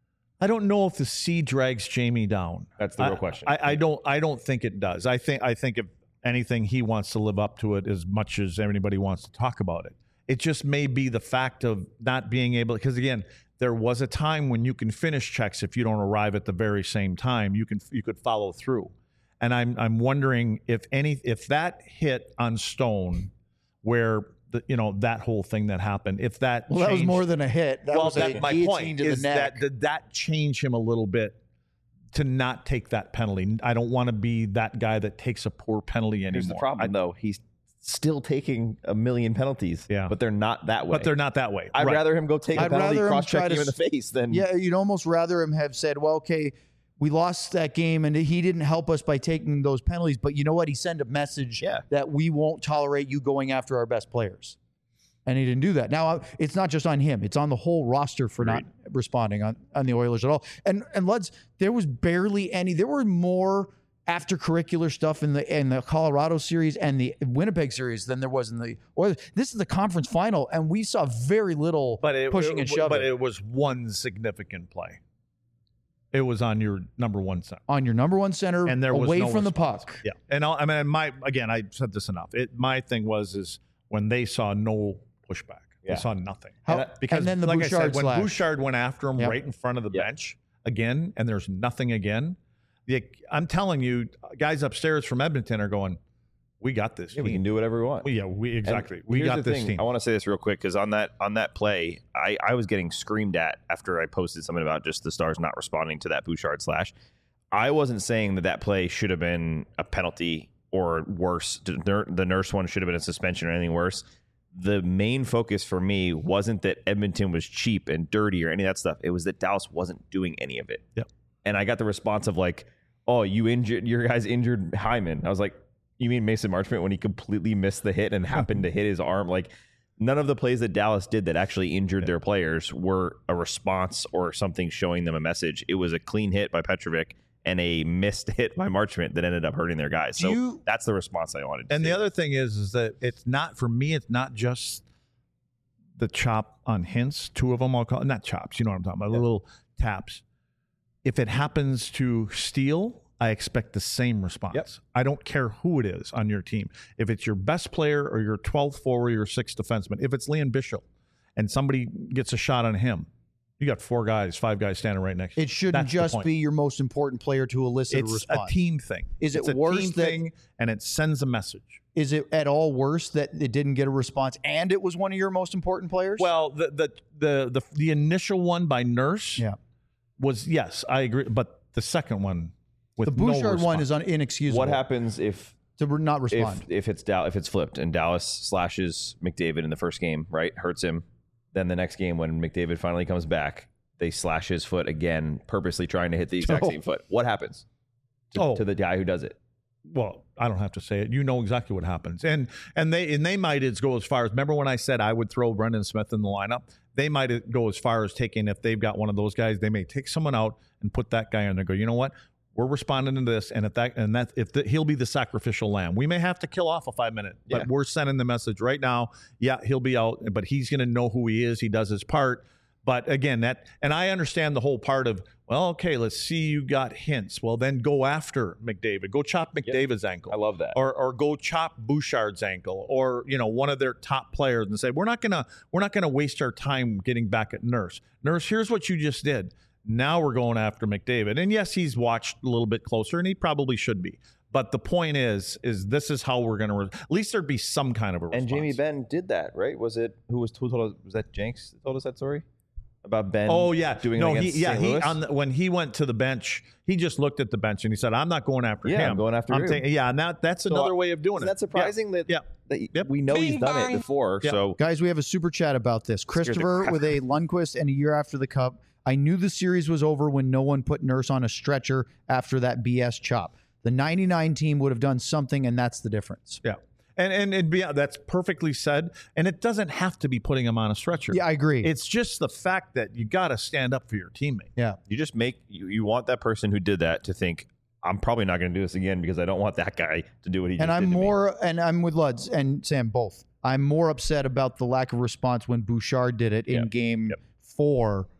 I don't know if the C drags Jamie down. That's the real I, question. I, I don't. I don't think it does. I think. I think if anything, he wants to live up to it as much as anybody wants to talk about it. It just may be the fact of not being able. Because again, there was a time when you can finish checks if you don't arrive at the very same time. You can. You could follow through. And I'm. I'm wondering if any. If that hit on Stone, where. The, you know, that whole thing that happened. If that well, that was more than a hit. That well, was that's a my guillotine point. to the Is neck. that did that change him a little bit to not take that penalty? I don't want to be that guy that takes a poor penalty anymore. Here's the problem, I, though. He's still taking a million penalties. Yeah, but they're not that way. But they're not that way. I'd right. rather him go take I'd a penalty, rather him cross check try him to in the face than yeah. You'd almost rather him have said, "Well, okay, we lost that game, and he didn't help us by taking those penalties, but you know what? He sent a message Yeah. that we won't tolerate you going after our best players." And he didn't do that. Now, it's not just on him. It's on the whole roster for not responding on, on the Oilers at all. And and let's, there was barely any, there were more after-curricular stuff in the in the Colorado series and the Winnipeg series than there was in the Oilers. This is the conference final, and we saw very little but it, pushing it, and shoving. But it was one significant play. It was on your number one center. On your number one center, and there was away no from response. the puck. Yeah. And I'll, I mean, my again, I said this enough. It my thing was is when they saw no pushback. Yeah. They saw nothing. How, and, because, and then the like Bouchard I said, when slash. Bouchard went after him Yep. right in front of the Yep. bench again, and there's nothing again, the, I'm telling you, guys upstairs from Edmonton are going, we got this. yeah, we team. can do whatever we want. Well, yeah, we exactly. And we here's got the this thing. team. I want to say this real quick because on that on that play, I, I was getting screamed at after I posted something about just the Stars not responding to that Bouchard slash. I wasn't saying that that play should have been a penalty or worse. The Nurse one should have been a suspension or anything worse. The main focus for me wasn't that Edmonton was cheap and dirty or any of that stuff. It was that Dallas wasn't doing any of it. Yep. And I got the response of like, "Oh, you injured your guys injured Hyman." I was like, "You mean Mason Marchment when he completely missed the hit and happened to hit his arm?" Like, none of the plays that Dallas did that actually injured their players were a response or something showing them a message. It was a clean hit by Petrovic and a missed hit by Marchment that ended up hurting their guys. So you, that's the response I wanted to And see. the other thing is, is that it's not, for me, it's not just the chop on hints. Two of them, I'll call it, not chops, you know what I'm talking about, Yeah. little taps. If it happens to Steele, I expect the same response. Yep. I don't care who it is on your team. If it's your best player or your twelfth forward or your sixth defenseman, if it's Leon Bishop and somebody gets a shot on him, you got four guys, five guys standing right next to you. It shouldn't That's the just point. be your most important player to elicit It's a response. a team thing. Is it It's a worse team that- thing, and it sends a message. Is it at all worse that it didn't get a response and it was one of your most important players? Well, the the the the, the initial one by Nurse yeah. was, yes, I agree, but the second one with The no Bouchard one response. is un- inexcusable. What happens if to not respond? if if it's Dal- if it's flipped and Dallas slashes McDavid in the first game, right, hurts him, then the next game when McDavid finally comes back, they slash his foot again, purposely trying to hit the exact Oh. same foot. What happens to, Oh. to the guy who does it? Well, I don't have to say it. You know exactly what happens, and and they and they might as go as far as, remember when I said I would throw Brendan Smith in the lineup? They might go as far as taking, if they've got one of those guys, they may take someone out and put that guy in there. Go, you know what? We're responding to this, and if that and that if the, he'll be the sacrificial lamb, we may have to kill off a five minute, but Yeah. we're sending the message right now. Yeah, he'll be out, but he's going to know who he is. He does his part. But again, that, and I understand the whole part of, well, okay, let's see, you got hints. Well, then go after McDavid. Go chop McDavid's ankle. I love that. Or or go chop Bouchard's ankle, or you know, one of their top players, and say, we're not gonna we're not gonna waste our time getting back at Nurse. Nurse, here's what you just did. Now we're going after McDavid. And yes, he's watched a little bit closer, and he probably should be. But the point is, is this is how we're gonna re- at least there'd be some kind of a response. And Jamie Benn did that, right? Was it who was who told us? Was that Jenks that told us that story about Ben? Oh yeah, doing no, it he against yeah Saint he Louis? on the, when he went to the bench, he just looked at the bench and he said, "I'm not going after Yeah, him. I'm going after you." taking- yeah, and that that's So, another uh, way of doing Isn't it. that surprising that, Yeah. that Yep. we know he's Bing done bong. it before? Yeah. So Guys, we have a super chat about this. Scares the Christopher crap with a Lundqvist and a year after the Cup. I knew the series was over when no one put Nurse on a stretcher after that B S chop. The ninety-nine team would have done something, and that's the difference. Yeah. And and and be, that's perfectly said. And it doesn't have to be putting him on a stretcher. Yeah, I agree. It's just the fact that you got to stand up for your teammate. Yeah. you just make you, you want that person who did that to think, I'm probably not going to do this again because I don't want that guy to do what he And just I'm did to me. more, and I'm with Luds and Sam both. I'm more upset about the lack of response when Bouchard did it in Yep. game Yep. four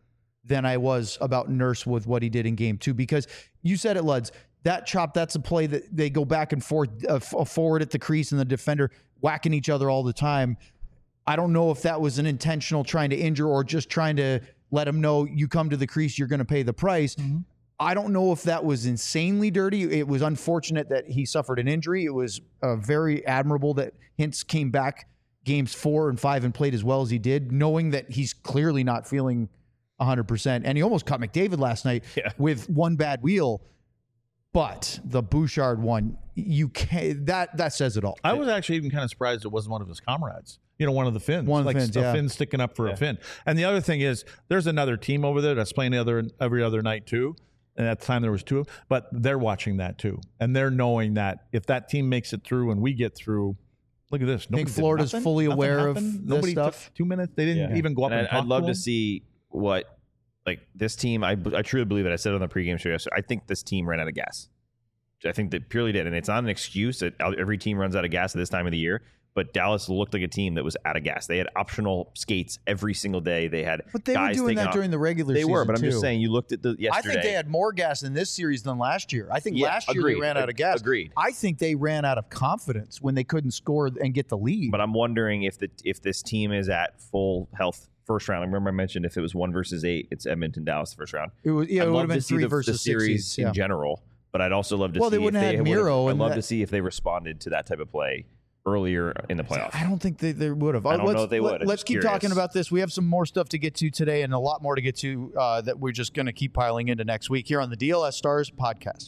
than I was about Nurse with what he did in game two. Because you said it, Luds, that chop, that's a play that they go back and forth, uh, forward at the crease and the defender whacking each other all the time. I don't know if that was an intentional trying to injure or just trying to let him know you come to the crease, you're going to pay the price. Mm-hmm. I don't know if that was insanely dirty. It was unfortunate that he suffered an injury. It was uh, very admirable that Hintz came back games four and five and played as well as he did, knowing that he's clearly not feeling one hundred percent. And he almost caught McDavid last night yeah. with one bad wheel. But the Bouchard one, you can't, that, that says it all. I was actually even kind of surprised it wasn't one of his comrades. You know, one of the Finns. One of like the Finns, a yeah. Finn sticking up for yeah. a Finn. And the other thing is, there's another team over there that's playing the other every other night too. And at the time there was two of them, but they're watching that too. And they're knowing that if that team makes it through and we get through, look at this. I think Florida's fully nothing aware happened. of this Nobody stuff. Took two minutes. They didn't yeah. even go up and, and talk I'd love to, to them. see what, like this team, I, I truly believe it. I said it on the pregame show yesterday. I think this team ran out of gas. I think they purely did. And it's not an excuse that every team runs out of gas at this time of the year. But Dallas looked like a team that was out of gas. They had optional skates every single day. They had But they guys were doing that off. during the regular they season, They were, but I'm too. just saying, you looked at the yesterday. I think they had more gas in this series than last year. I think Yeah, last year agreed. they ran out of gas. Agreed. I think they ran out of confidence when they couldn't score and get the lead. But I'm wondering if the if this team is at full health first round. I remember I mentioned if it was one versus eight, it's Edmonton, Dallas the first round. It was, yeah, I'd it would love have been to see three the, versus the series six, yeah. in general. But I'd also love to well, see they wouldn't if have they had Miro. I'd love that, to see if they responded to that type of play earlier in the playoffs. I don't think they, they would have. I don't let's, know if they would. Let, let's keep curious. talking about this. We have some more stuff to get to today and a lot more to get to uh, that we're just going to keep piling into next week here on the D L S Stars podcast.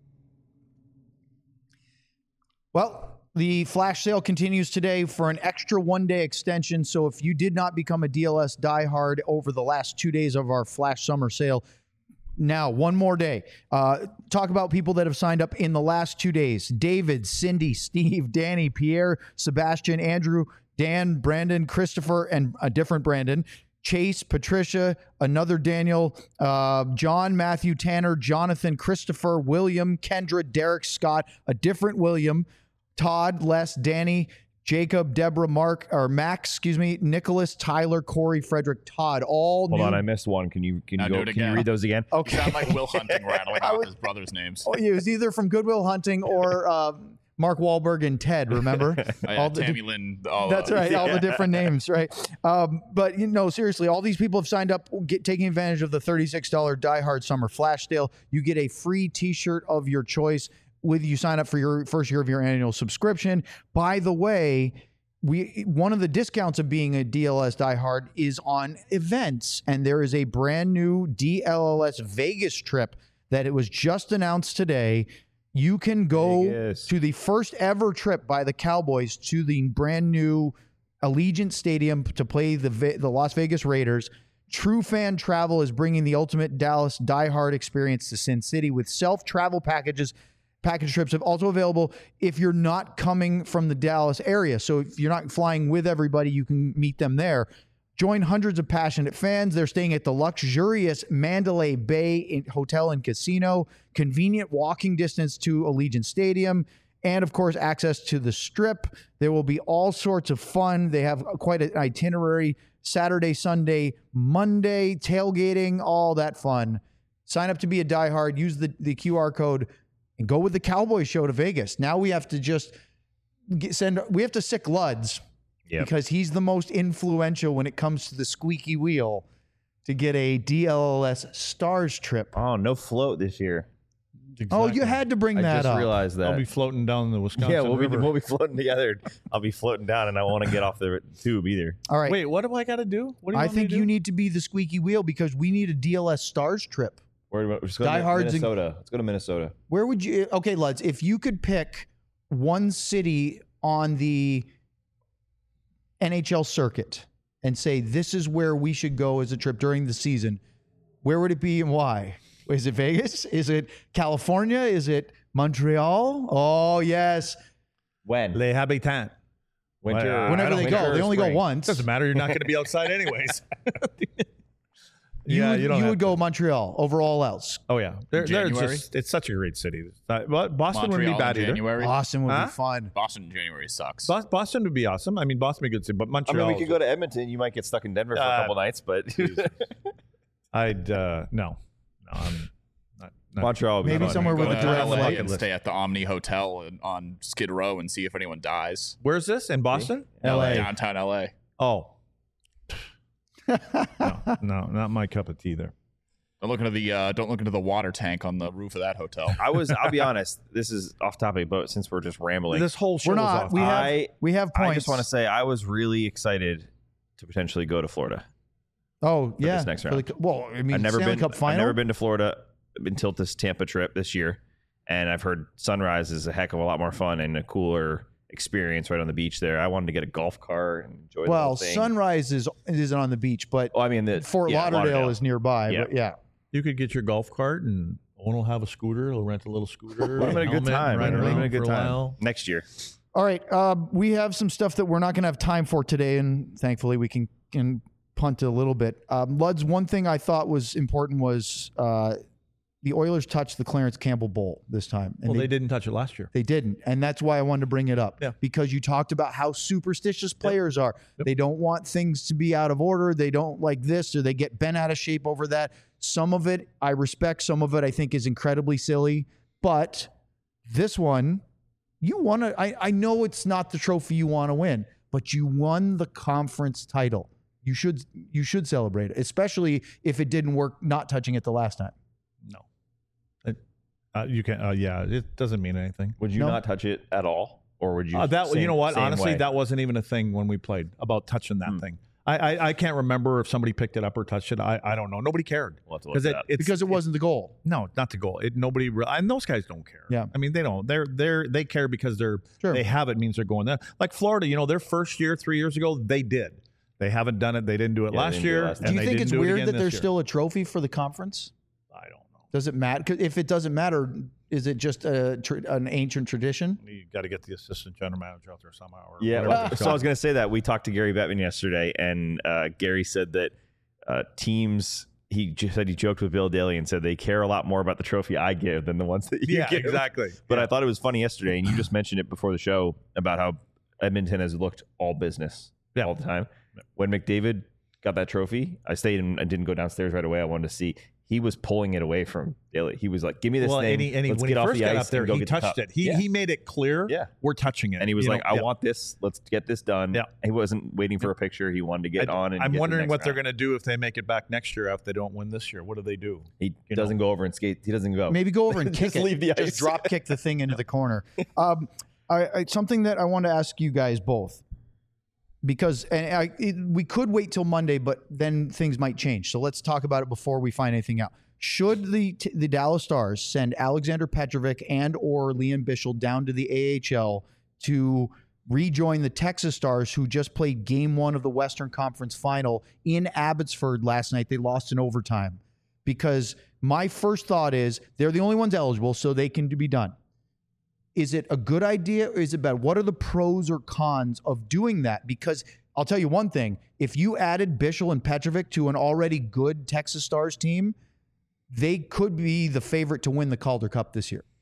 Well, the flash sale continues today for an extra one-day extension. So if you did not become a D L S diehard over the last two days of our flash summer sale, now, one more day. Uh, talk about people that have signed up in the last two days. David, Cindy, Steve, Danny, Pierre, Sebastian, Andrew, Dan, Brandon, Christopher, and a different Brandon, Chase, Patricia, another Daniel, uh, John, Matthew, Tanner, Jonathan, Christopher, William, Kendra, Derek, Scott, a different William, Todd, Les, Danny, Jacob, Deborah, Mark, or Max, excuse me, Nicholas, Tyler, Corey, Frederick, Todd, all Hold new. on, I missed one. Can you can you Now go? do it Can you again. read those again? Okay. You sound like Will Hunting rattling I off would- his brother's names. Oh, it was either from Goodwill Hunting or uh, Mark Wahlberg and Ted, remember? Oh, yeah, All the- Tammy Lynn. All, That's uh, right. All the different names, right? Um, but, you know, seriously, all these people have signed up, get, taking advantage of the thirty-six dollars Die Hard Summer Flash Sale. You get a free T-shirt of your choice with you sign up for your first year of your annual subscription. By the way, we one of the discounts of being a D L S diehard is on events, and there is a brand new D L L S Vegas trip that it was just announced today. You can go Vegas. to the first ever trip by the Cowboys to the brand new Allegiant Stadium to play the Ve- the Las Vegas Raiders. True Fan Travel is bringing the ultimate Dallas diehard experience to Sin City with self-travel packages. Package trips are also available if you're not coming from the Dallas area. So if you're not flying with everybody, you can meet them there. Join hundreds of passionate fans. They're staying at the luxurious Mandalay Bay Hotel and Casino, convenient walking distance to Allegiant Stadium, and of course, access to the Strip. There will be all sorts of fun. They have quite an itinerary, Saturday, Sunday, Monday, tailgating, all that fun. Sign up to be a diehard. Use the, the Q R code and go with the Cowboy show to Vegas. Now we have to just get, send, we have to sick Luds Yep. because he's the most influential when it comes to the squeaky wheel to get a D L L S Stars trip. Oh, no float this year. Oh, you had to bring I that just up. realized that. I'll be floating down the Wisconsin yeah, we'll be River. we'll be floating together. I'll be floating down, and I want to get off the tube either. All right. Wait, what do I got to do? What do you I want me think to do? you need to be the squeaky wheel because we need a D L S Stars trip. Where, let's go to Diehards in- Minnesota. Let's go to Minnesota. Where would you? Okay, Luds, if you could pick one city on the N H L circuit and say this is where we should go as a trip during the season, where would it be and why? Is it Vegas? Is it California? Is it Montreal? Oh, yes. When? Les Habitants. Winter. Well, I Whenever don't they think go. or They only go spring. once. Doesn't matter. You're not going to be outside anyways. You, yeah, would, you don't. you have would to. go Montreal over all else. Oh yeah, they're, they're January? just, it's such a great city. Uh, well, Boston wouldn't Montreal be bad in either. January. Boston would Huh? be fun. Boston in January sucks. Bos- Boston would be awesome. I mean, Boston would be a good city, but I Montreal. mean, we could go to Edmonton. You might get stuck in Denver for Uh, a couple nights, but I'd uh, no, no, I'm not. not Montreal would be Maybe fun. somewhere with Go a to direct L A flight. and stay at the Omni Hotel in- on Skid Row and see if anyone dies. Where's this in Boston? L A. Downtown L A. Oh, no, no, not my cup of tea there. Don't look into the uh, don't look into the water tank on the roof of that hotel. I was. I'll be honest. This is off topic, but since we're just rambling, This whole show We're is not. off. We have I- we have points. I just want to say I was really excited to potentially go to Florida. Oh yeah. this next For round. the- well, I mean, I've never Stanley been. Cup final. I've never been to Florida until this Tampa trip this year, and I've heard Sunrise is a heck of a lot more fun and a cooler experience right on the beach there. I wanted to get a golf cart and enjoy. the Well, whole thing. Sunrise is isn't on the beach, but Oh, I mean, the, Fort yeah, Lauderdale, is nearby. Yeah. But yeah. You could get your golf cart, and Owen will have a scooter. He'll rent a little scooter. Would have been a good helmet, time. Ride Would have around been a good for time while. next year. All right. Uh, we have some stuff that we're not going to have time for today, and thankfully we can can punt a little bit. Um, Luds, one thing I thought was important was uh, the Oilers touched the Clarence Campbell Bowl this time. And Well, they didn't touch it last year. They didn't. And that's why I wanted to bring it up. Yeah. Because you talked about how superstitious players are. They don't want things to be out of order. They don't like this or they get bent out of shape over that. Some of it I respect. Some of it I think is incredibly silly. But this one, you won to, I, I know it's not the trophy you want to win, but you won the conference title. You should you should celebrate it, especially if it didn't work not touching it the last time. No. It, uh, you can. Uh, yeah, it doesn't mean anything. Would you No. not touch it at all, or would you? Uh, that same- you know what? same Honestly, way? that wasn't even a thing when we played about touching that Hmm. thing. I, I I can't remember if somebody picked it up or touched it. I, I don't know. Nobody cared We'll have to look it, it up. it's Because it wasn't the goal. no, not the goal. It nobody re- and those guys don't care. Yeah. I mean they don't. They're they're they care because they're Sure. they have it means they're going there. Like Florida, you know, their first year three years ago they did. They haven't done it. They didn't do it Yeah, they last didn't do it year. last and Do you they think didn't it's do it weird again that this there's year. still a trophy for the conference? I don't know. Does it matter? 'Cause if it doesn't matter, is it just a tr- an ancient tradition? You got to get the assistant general manager out there somehow. Or Yeah, whatever well, it's so I called. was going to say that we talked to Gary Bettman yesterday, and uh, Gary said that uh, teams. He just said he joked with Bill Daly and said they care a lot more about the trophy I give than the ones that you Yeah, give. exactly. But I thought it was funny yesterday, and you just mentioned it before the show about how Edmonton has looked all business Yeah. all the time. When McDavid got that trophy, I stayed and I didn't go downstairs right away. I wanted to see. He was pulling it away from Daly. He was like, "Give me this well, thing. and he, and he, Let's when get he off first the got ice up there, and go he get the touched cup." it. He Yeah. he made it clear. Yeah. We're touching it. And he was You like, know, "I yeah. want this. Let's get this done." Yeah. He wasn't waiting for a picture. He wanted to get I- on. And I'm get to the wondering next what they're round. going to do if they make it back next year after they don't win this year. What do they do? He You doesn't know. go over and skate. He doesn't go. Maybe go over and kick Just it. leave the Just ice. drop kick the thing into the corner. Um, I, I, something that I want to ask you guys both, because and I, it, we could wait till Monday, but then things might change. So let's talk about it before we find anything out. Should the t- the Dallas Stars send Alexander Petrovic and or Liam Bichsel down to the A H L to rejoin the Texas Stars, who just played Game One of the Western Conference Final in Abbotsford last night? They lost in overtime. Because my first thought is they're the only ones eligible, so they can be done. Is it a good idea or is it bad? What are the pros or cons of doing that? Because I'll tell you one thing. If you added Bichsel and Petrovic to an already good Texas Stars team, they could be the favorite to win the Calder Cup this year.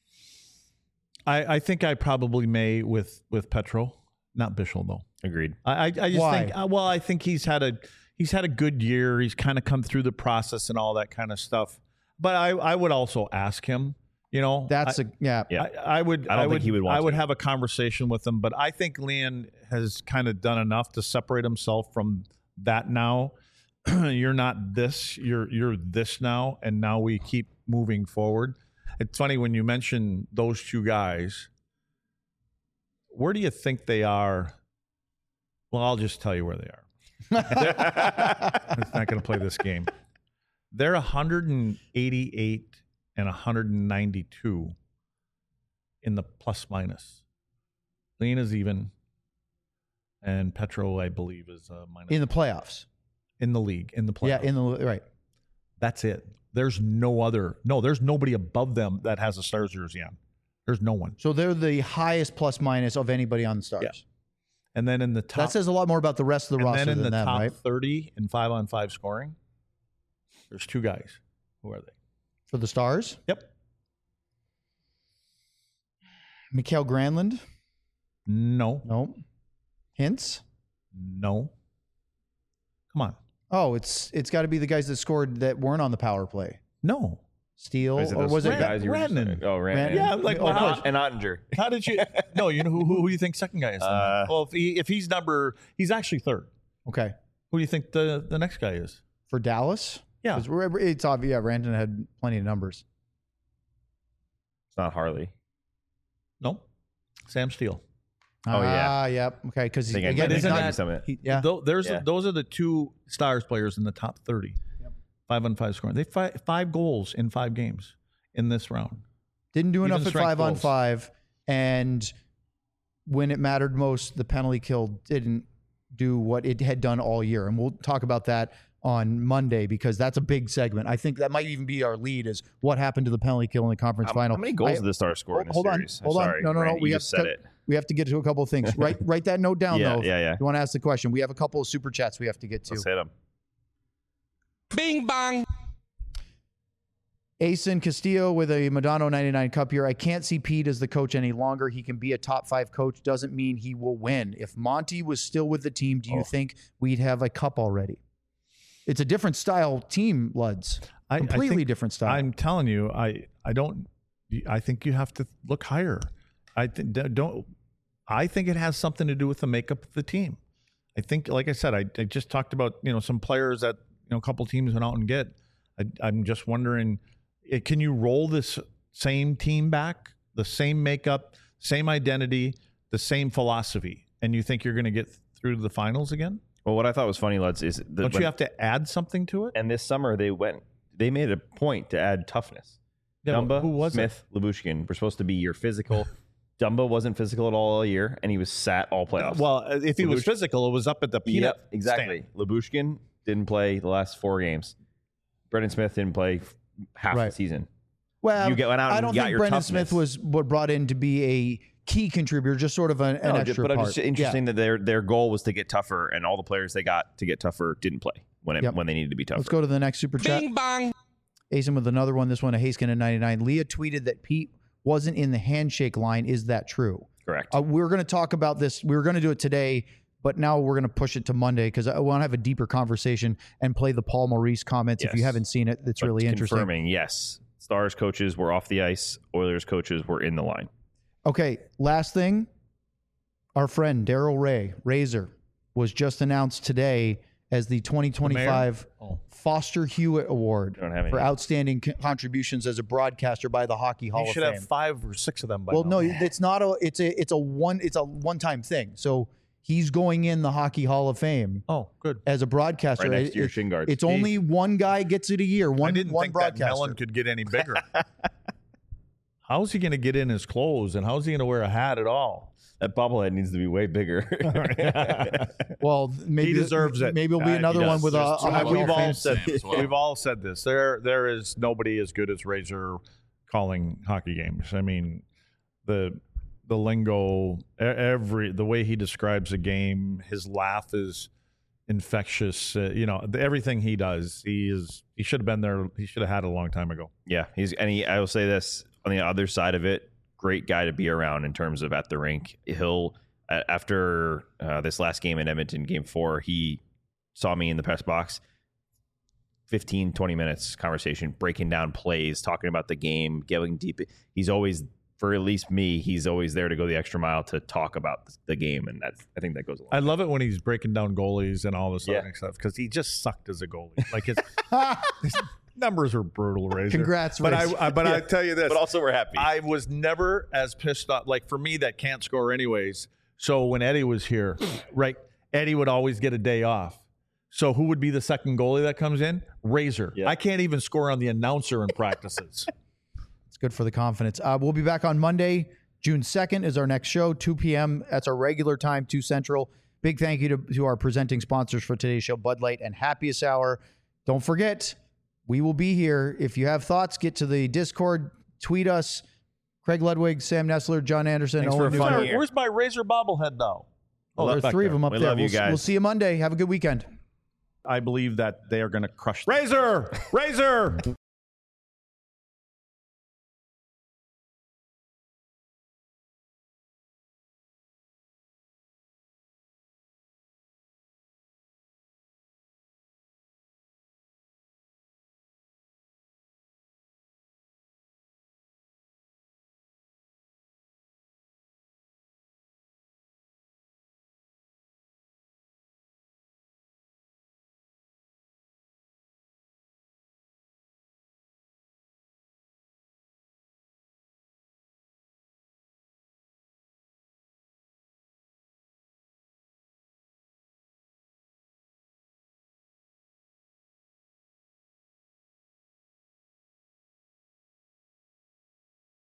I, I think I probably may with with Petro, not Bichsel though. Agreed. I I, I just Why? think uh, well I think he's had a he's had a good year. He's kind of come through the process and all that kind of stuff. But I I would also ask him. You know, That's I, a yeah. Yeah. I, I would. I don't think would, he would want I would to. have a conversation with him, but I think Leon has kind of done enough to separate himself from that. Now, you're not this. You're you're this now, and now we keep moving forward. It's funny when you mention those two guys. Where do you think they are? Well, I'll just tell you where they are. I'm not going to play this game. They're one hundred eighty-eight and one hundred ninety-two in the plus minus. Lean is even, and Petro, I believe, is uh, minus In the playoffs. in the league in the playoffs. Yeah, in the right. That's it. There's no other. No, there's nobody above them that has a Stars jersey on. There's no one. So they're the highest plus minus of anybody on the Stars. Yeah. And then in the top, That says a lot more about the rest of the and roster then in than the them, top right? thirty in five on five scoring, there's two guys. Who are they? For the Stars? Yep. Mikael Granlund? No. No. Hints? No. Come on. Oh, it's it's got to be the guys that scored that weren't on the power play. No. Steele, Is it or those was it guys you were just Rantanen? saying? Oh, Rantanen. Ran- Yeah, like Oh, well, course. how, And Ottinger. how did you? No, you know who who, who do you think second guy is? then? Uh, well, if he if he's number, he's actually third. Okay. Who do you think the the next guy is? For Dallas? Yeah. 'Cause we're- It's obvious. Yeah, Rantanen had plenty of numbers. It's not Harley. No, Sam Steele. Oh, yeah. Ah, yep. Okay, because I think I again, might he's have not. gotten some of it. he- yeah. Tho- there's Yeah. those are the two Stars players in the top thirty. Five on five scoring. They five five goals in five games in this round. Didn't do Even enough at strength five on goals. five, and when it mattered most, the penalty kill didn't do what it had done all year. And we'll talk about that on Monday because that's a big segment. I think that might even be our lead: is what happened to the penalty kill in the conference How, final. how many goals I- did the Stars score in this hold on, series? I'm hold on. sorry, No, no, no. Randy, We you have just to, said it. we have to get to a couple of things. write write that note down Yeah, though. yeah, yeah. You want to ask the question? We have a couple of super chats we have to get to. Let's hit them. Bing bong. Asen Castillo with a Madonna ninety-nine cup here. I can't see Pete as the coach any longer. He can be a top five coach. Doesn't mean he will win. If Monty was still with the team, do you Oh. think we'd have a cup already? It's a different style team, Luds. I, Completely I think, different style. I'm telling you, I I don't. I think you have to look higher. I think don't. I think it has something to do with the makeup of the team. I think, like I said, I, I just talked about you know some players that you know a couple teams went out and get. I, I'm just wondering, it, can you roll this same team back, the same makeup, same identity, the same philosophy, and you think you're going to get through to the finals again? Well, what I thought was funny, Luds, is that Don't when- you have to add something to it? And this summer they went. They made a point to add toughness. Yeah, Dumba, who was it? Smith, Lyubushkin were supposed to be your physical. Dumba wasn't physical at all all year, and he was sat all playoffs. Well, if he was Lyubushkin- physical, it was up at the peanut. Yep, exactly. Lyubushkin didn't play the last four games. Brendan Smith didn't play f- half Right. the season. well, you get- went out I and don't got think your Brendan toughness. Smith was what brought in to be a key contributor, just sort of an, an No, extra but part. it's just interesting that their their goal was to get tougher, and all the players they got to get tougher didn't play when it, Yep. when they needed to be tougher. Let's go to the next super chat. Bing bong. Asen with another one. This one, a Haskin at ninety-nine. Leah tweeted that Pete wasn't in the handshake line. Is that true? Correct. Uh, we're going to talk about this. We were going to do it today, but now we're going to push it to Monday because I want to have a deeper conversation and play the Paul Maurice comments. If you Yes. haven't seen it, it's But really interesting. Confirming, yes. Stars coaches were off the ice. Oilers coaches were in the line. Okay, last thing. Our friend Daryl Ray, Razor, was just announced today as the twenty twenty-five Oh. Foster Hewitt Award Don't have any. for outstanding co- contributions as a broadcaster by the Hockey Hall You of should Fame. have five or six of them by Well, now. no, it's not a. It's a. It's a one. It's a one-time thing. So he's going in the Hockey Hall of Fame Oh, good. as a broadcaster. Right next It- to your it- shin guards. It's only one guy gets it a year. One. I didn't one think that broadcaster. melon could get any bigger. How's he going to get in his clothes, and how's he going to wear a hat at all? That bobblehead needs to be way bigger. Well, maybe he deserves it. Maybe it'll be Uh, he another does. one with a, There's a two Hockey of We've Hall of all Fame. said Sam as well. we've all said this. There, there is nobody as good as Razor calling hockey games. I mean, the the lingo, e- every the way he describes a game, his laugh is infectious. Uh, you know, the, everything he does, he is. He should have been there. He should have had it a long time ago. Yeah, he's and he, I will say this on the other side of it, great guy to be around in terms of at the rink. He'll a- after uh, this last game in Edmonton, game four, he saw me in the press box. fifteen, twenty minutes conversation, breaking down plays, talking about the game, going deep. He's always, for at least me, he's always there to go the extra mile to talk about the game, and that's I think that goes a long I love it when he's breaking down goalies and all this Yeah. other stuff because he just sucked as a goalie. Like his, his numbers are brutal, Razor. Congrats, but Razor. I, I but I Yeah. tell you this. But also we're happy. I was never as pissed off. Like for me, that can't score anyways. So when Eddie was here, right, Eddie would always get a day off. So who would be the second goalie that comes in? Razor. Yeah. I can't even score on the announcer in practices. It's good for the confidence. Uh, we'll be back on Monday. June second is our next show, two p.m. That's our regular time, two Central. Big thank you to, to our presenting sponsors for today's show, Bud Light and Happiest Hour. Don't forget, we will be here. If you have thoughts, get to the Discord, tweet us. Craig Ludwig, Sam Nessler, John Anderson. Thanks Owen for a Newkirk. fun year. Where's my Razor bobblehead now? Oh, that's there's back three of there. them up We there. love you we'll, guys. we'll see you Monday. Have a good weekend. I believe that they are going to crush Razor. Razor.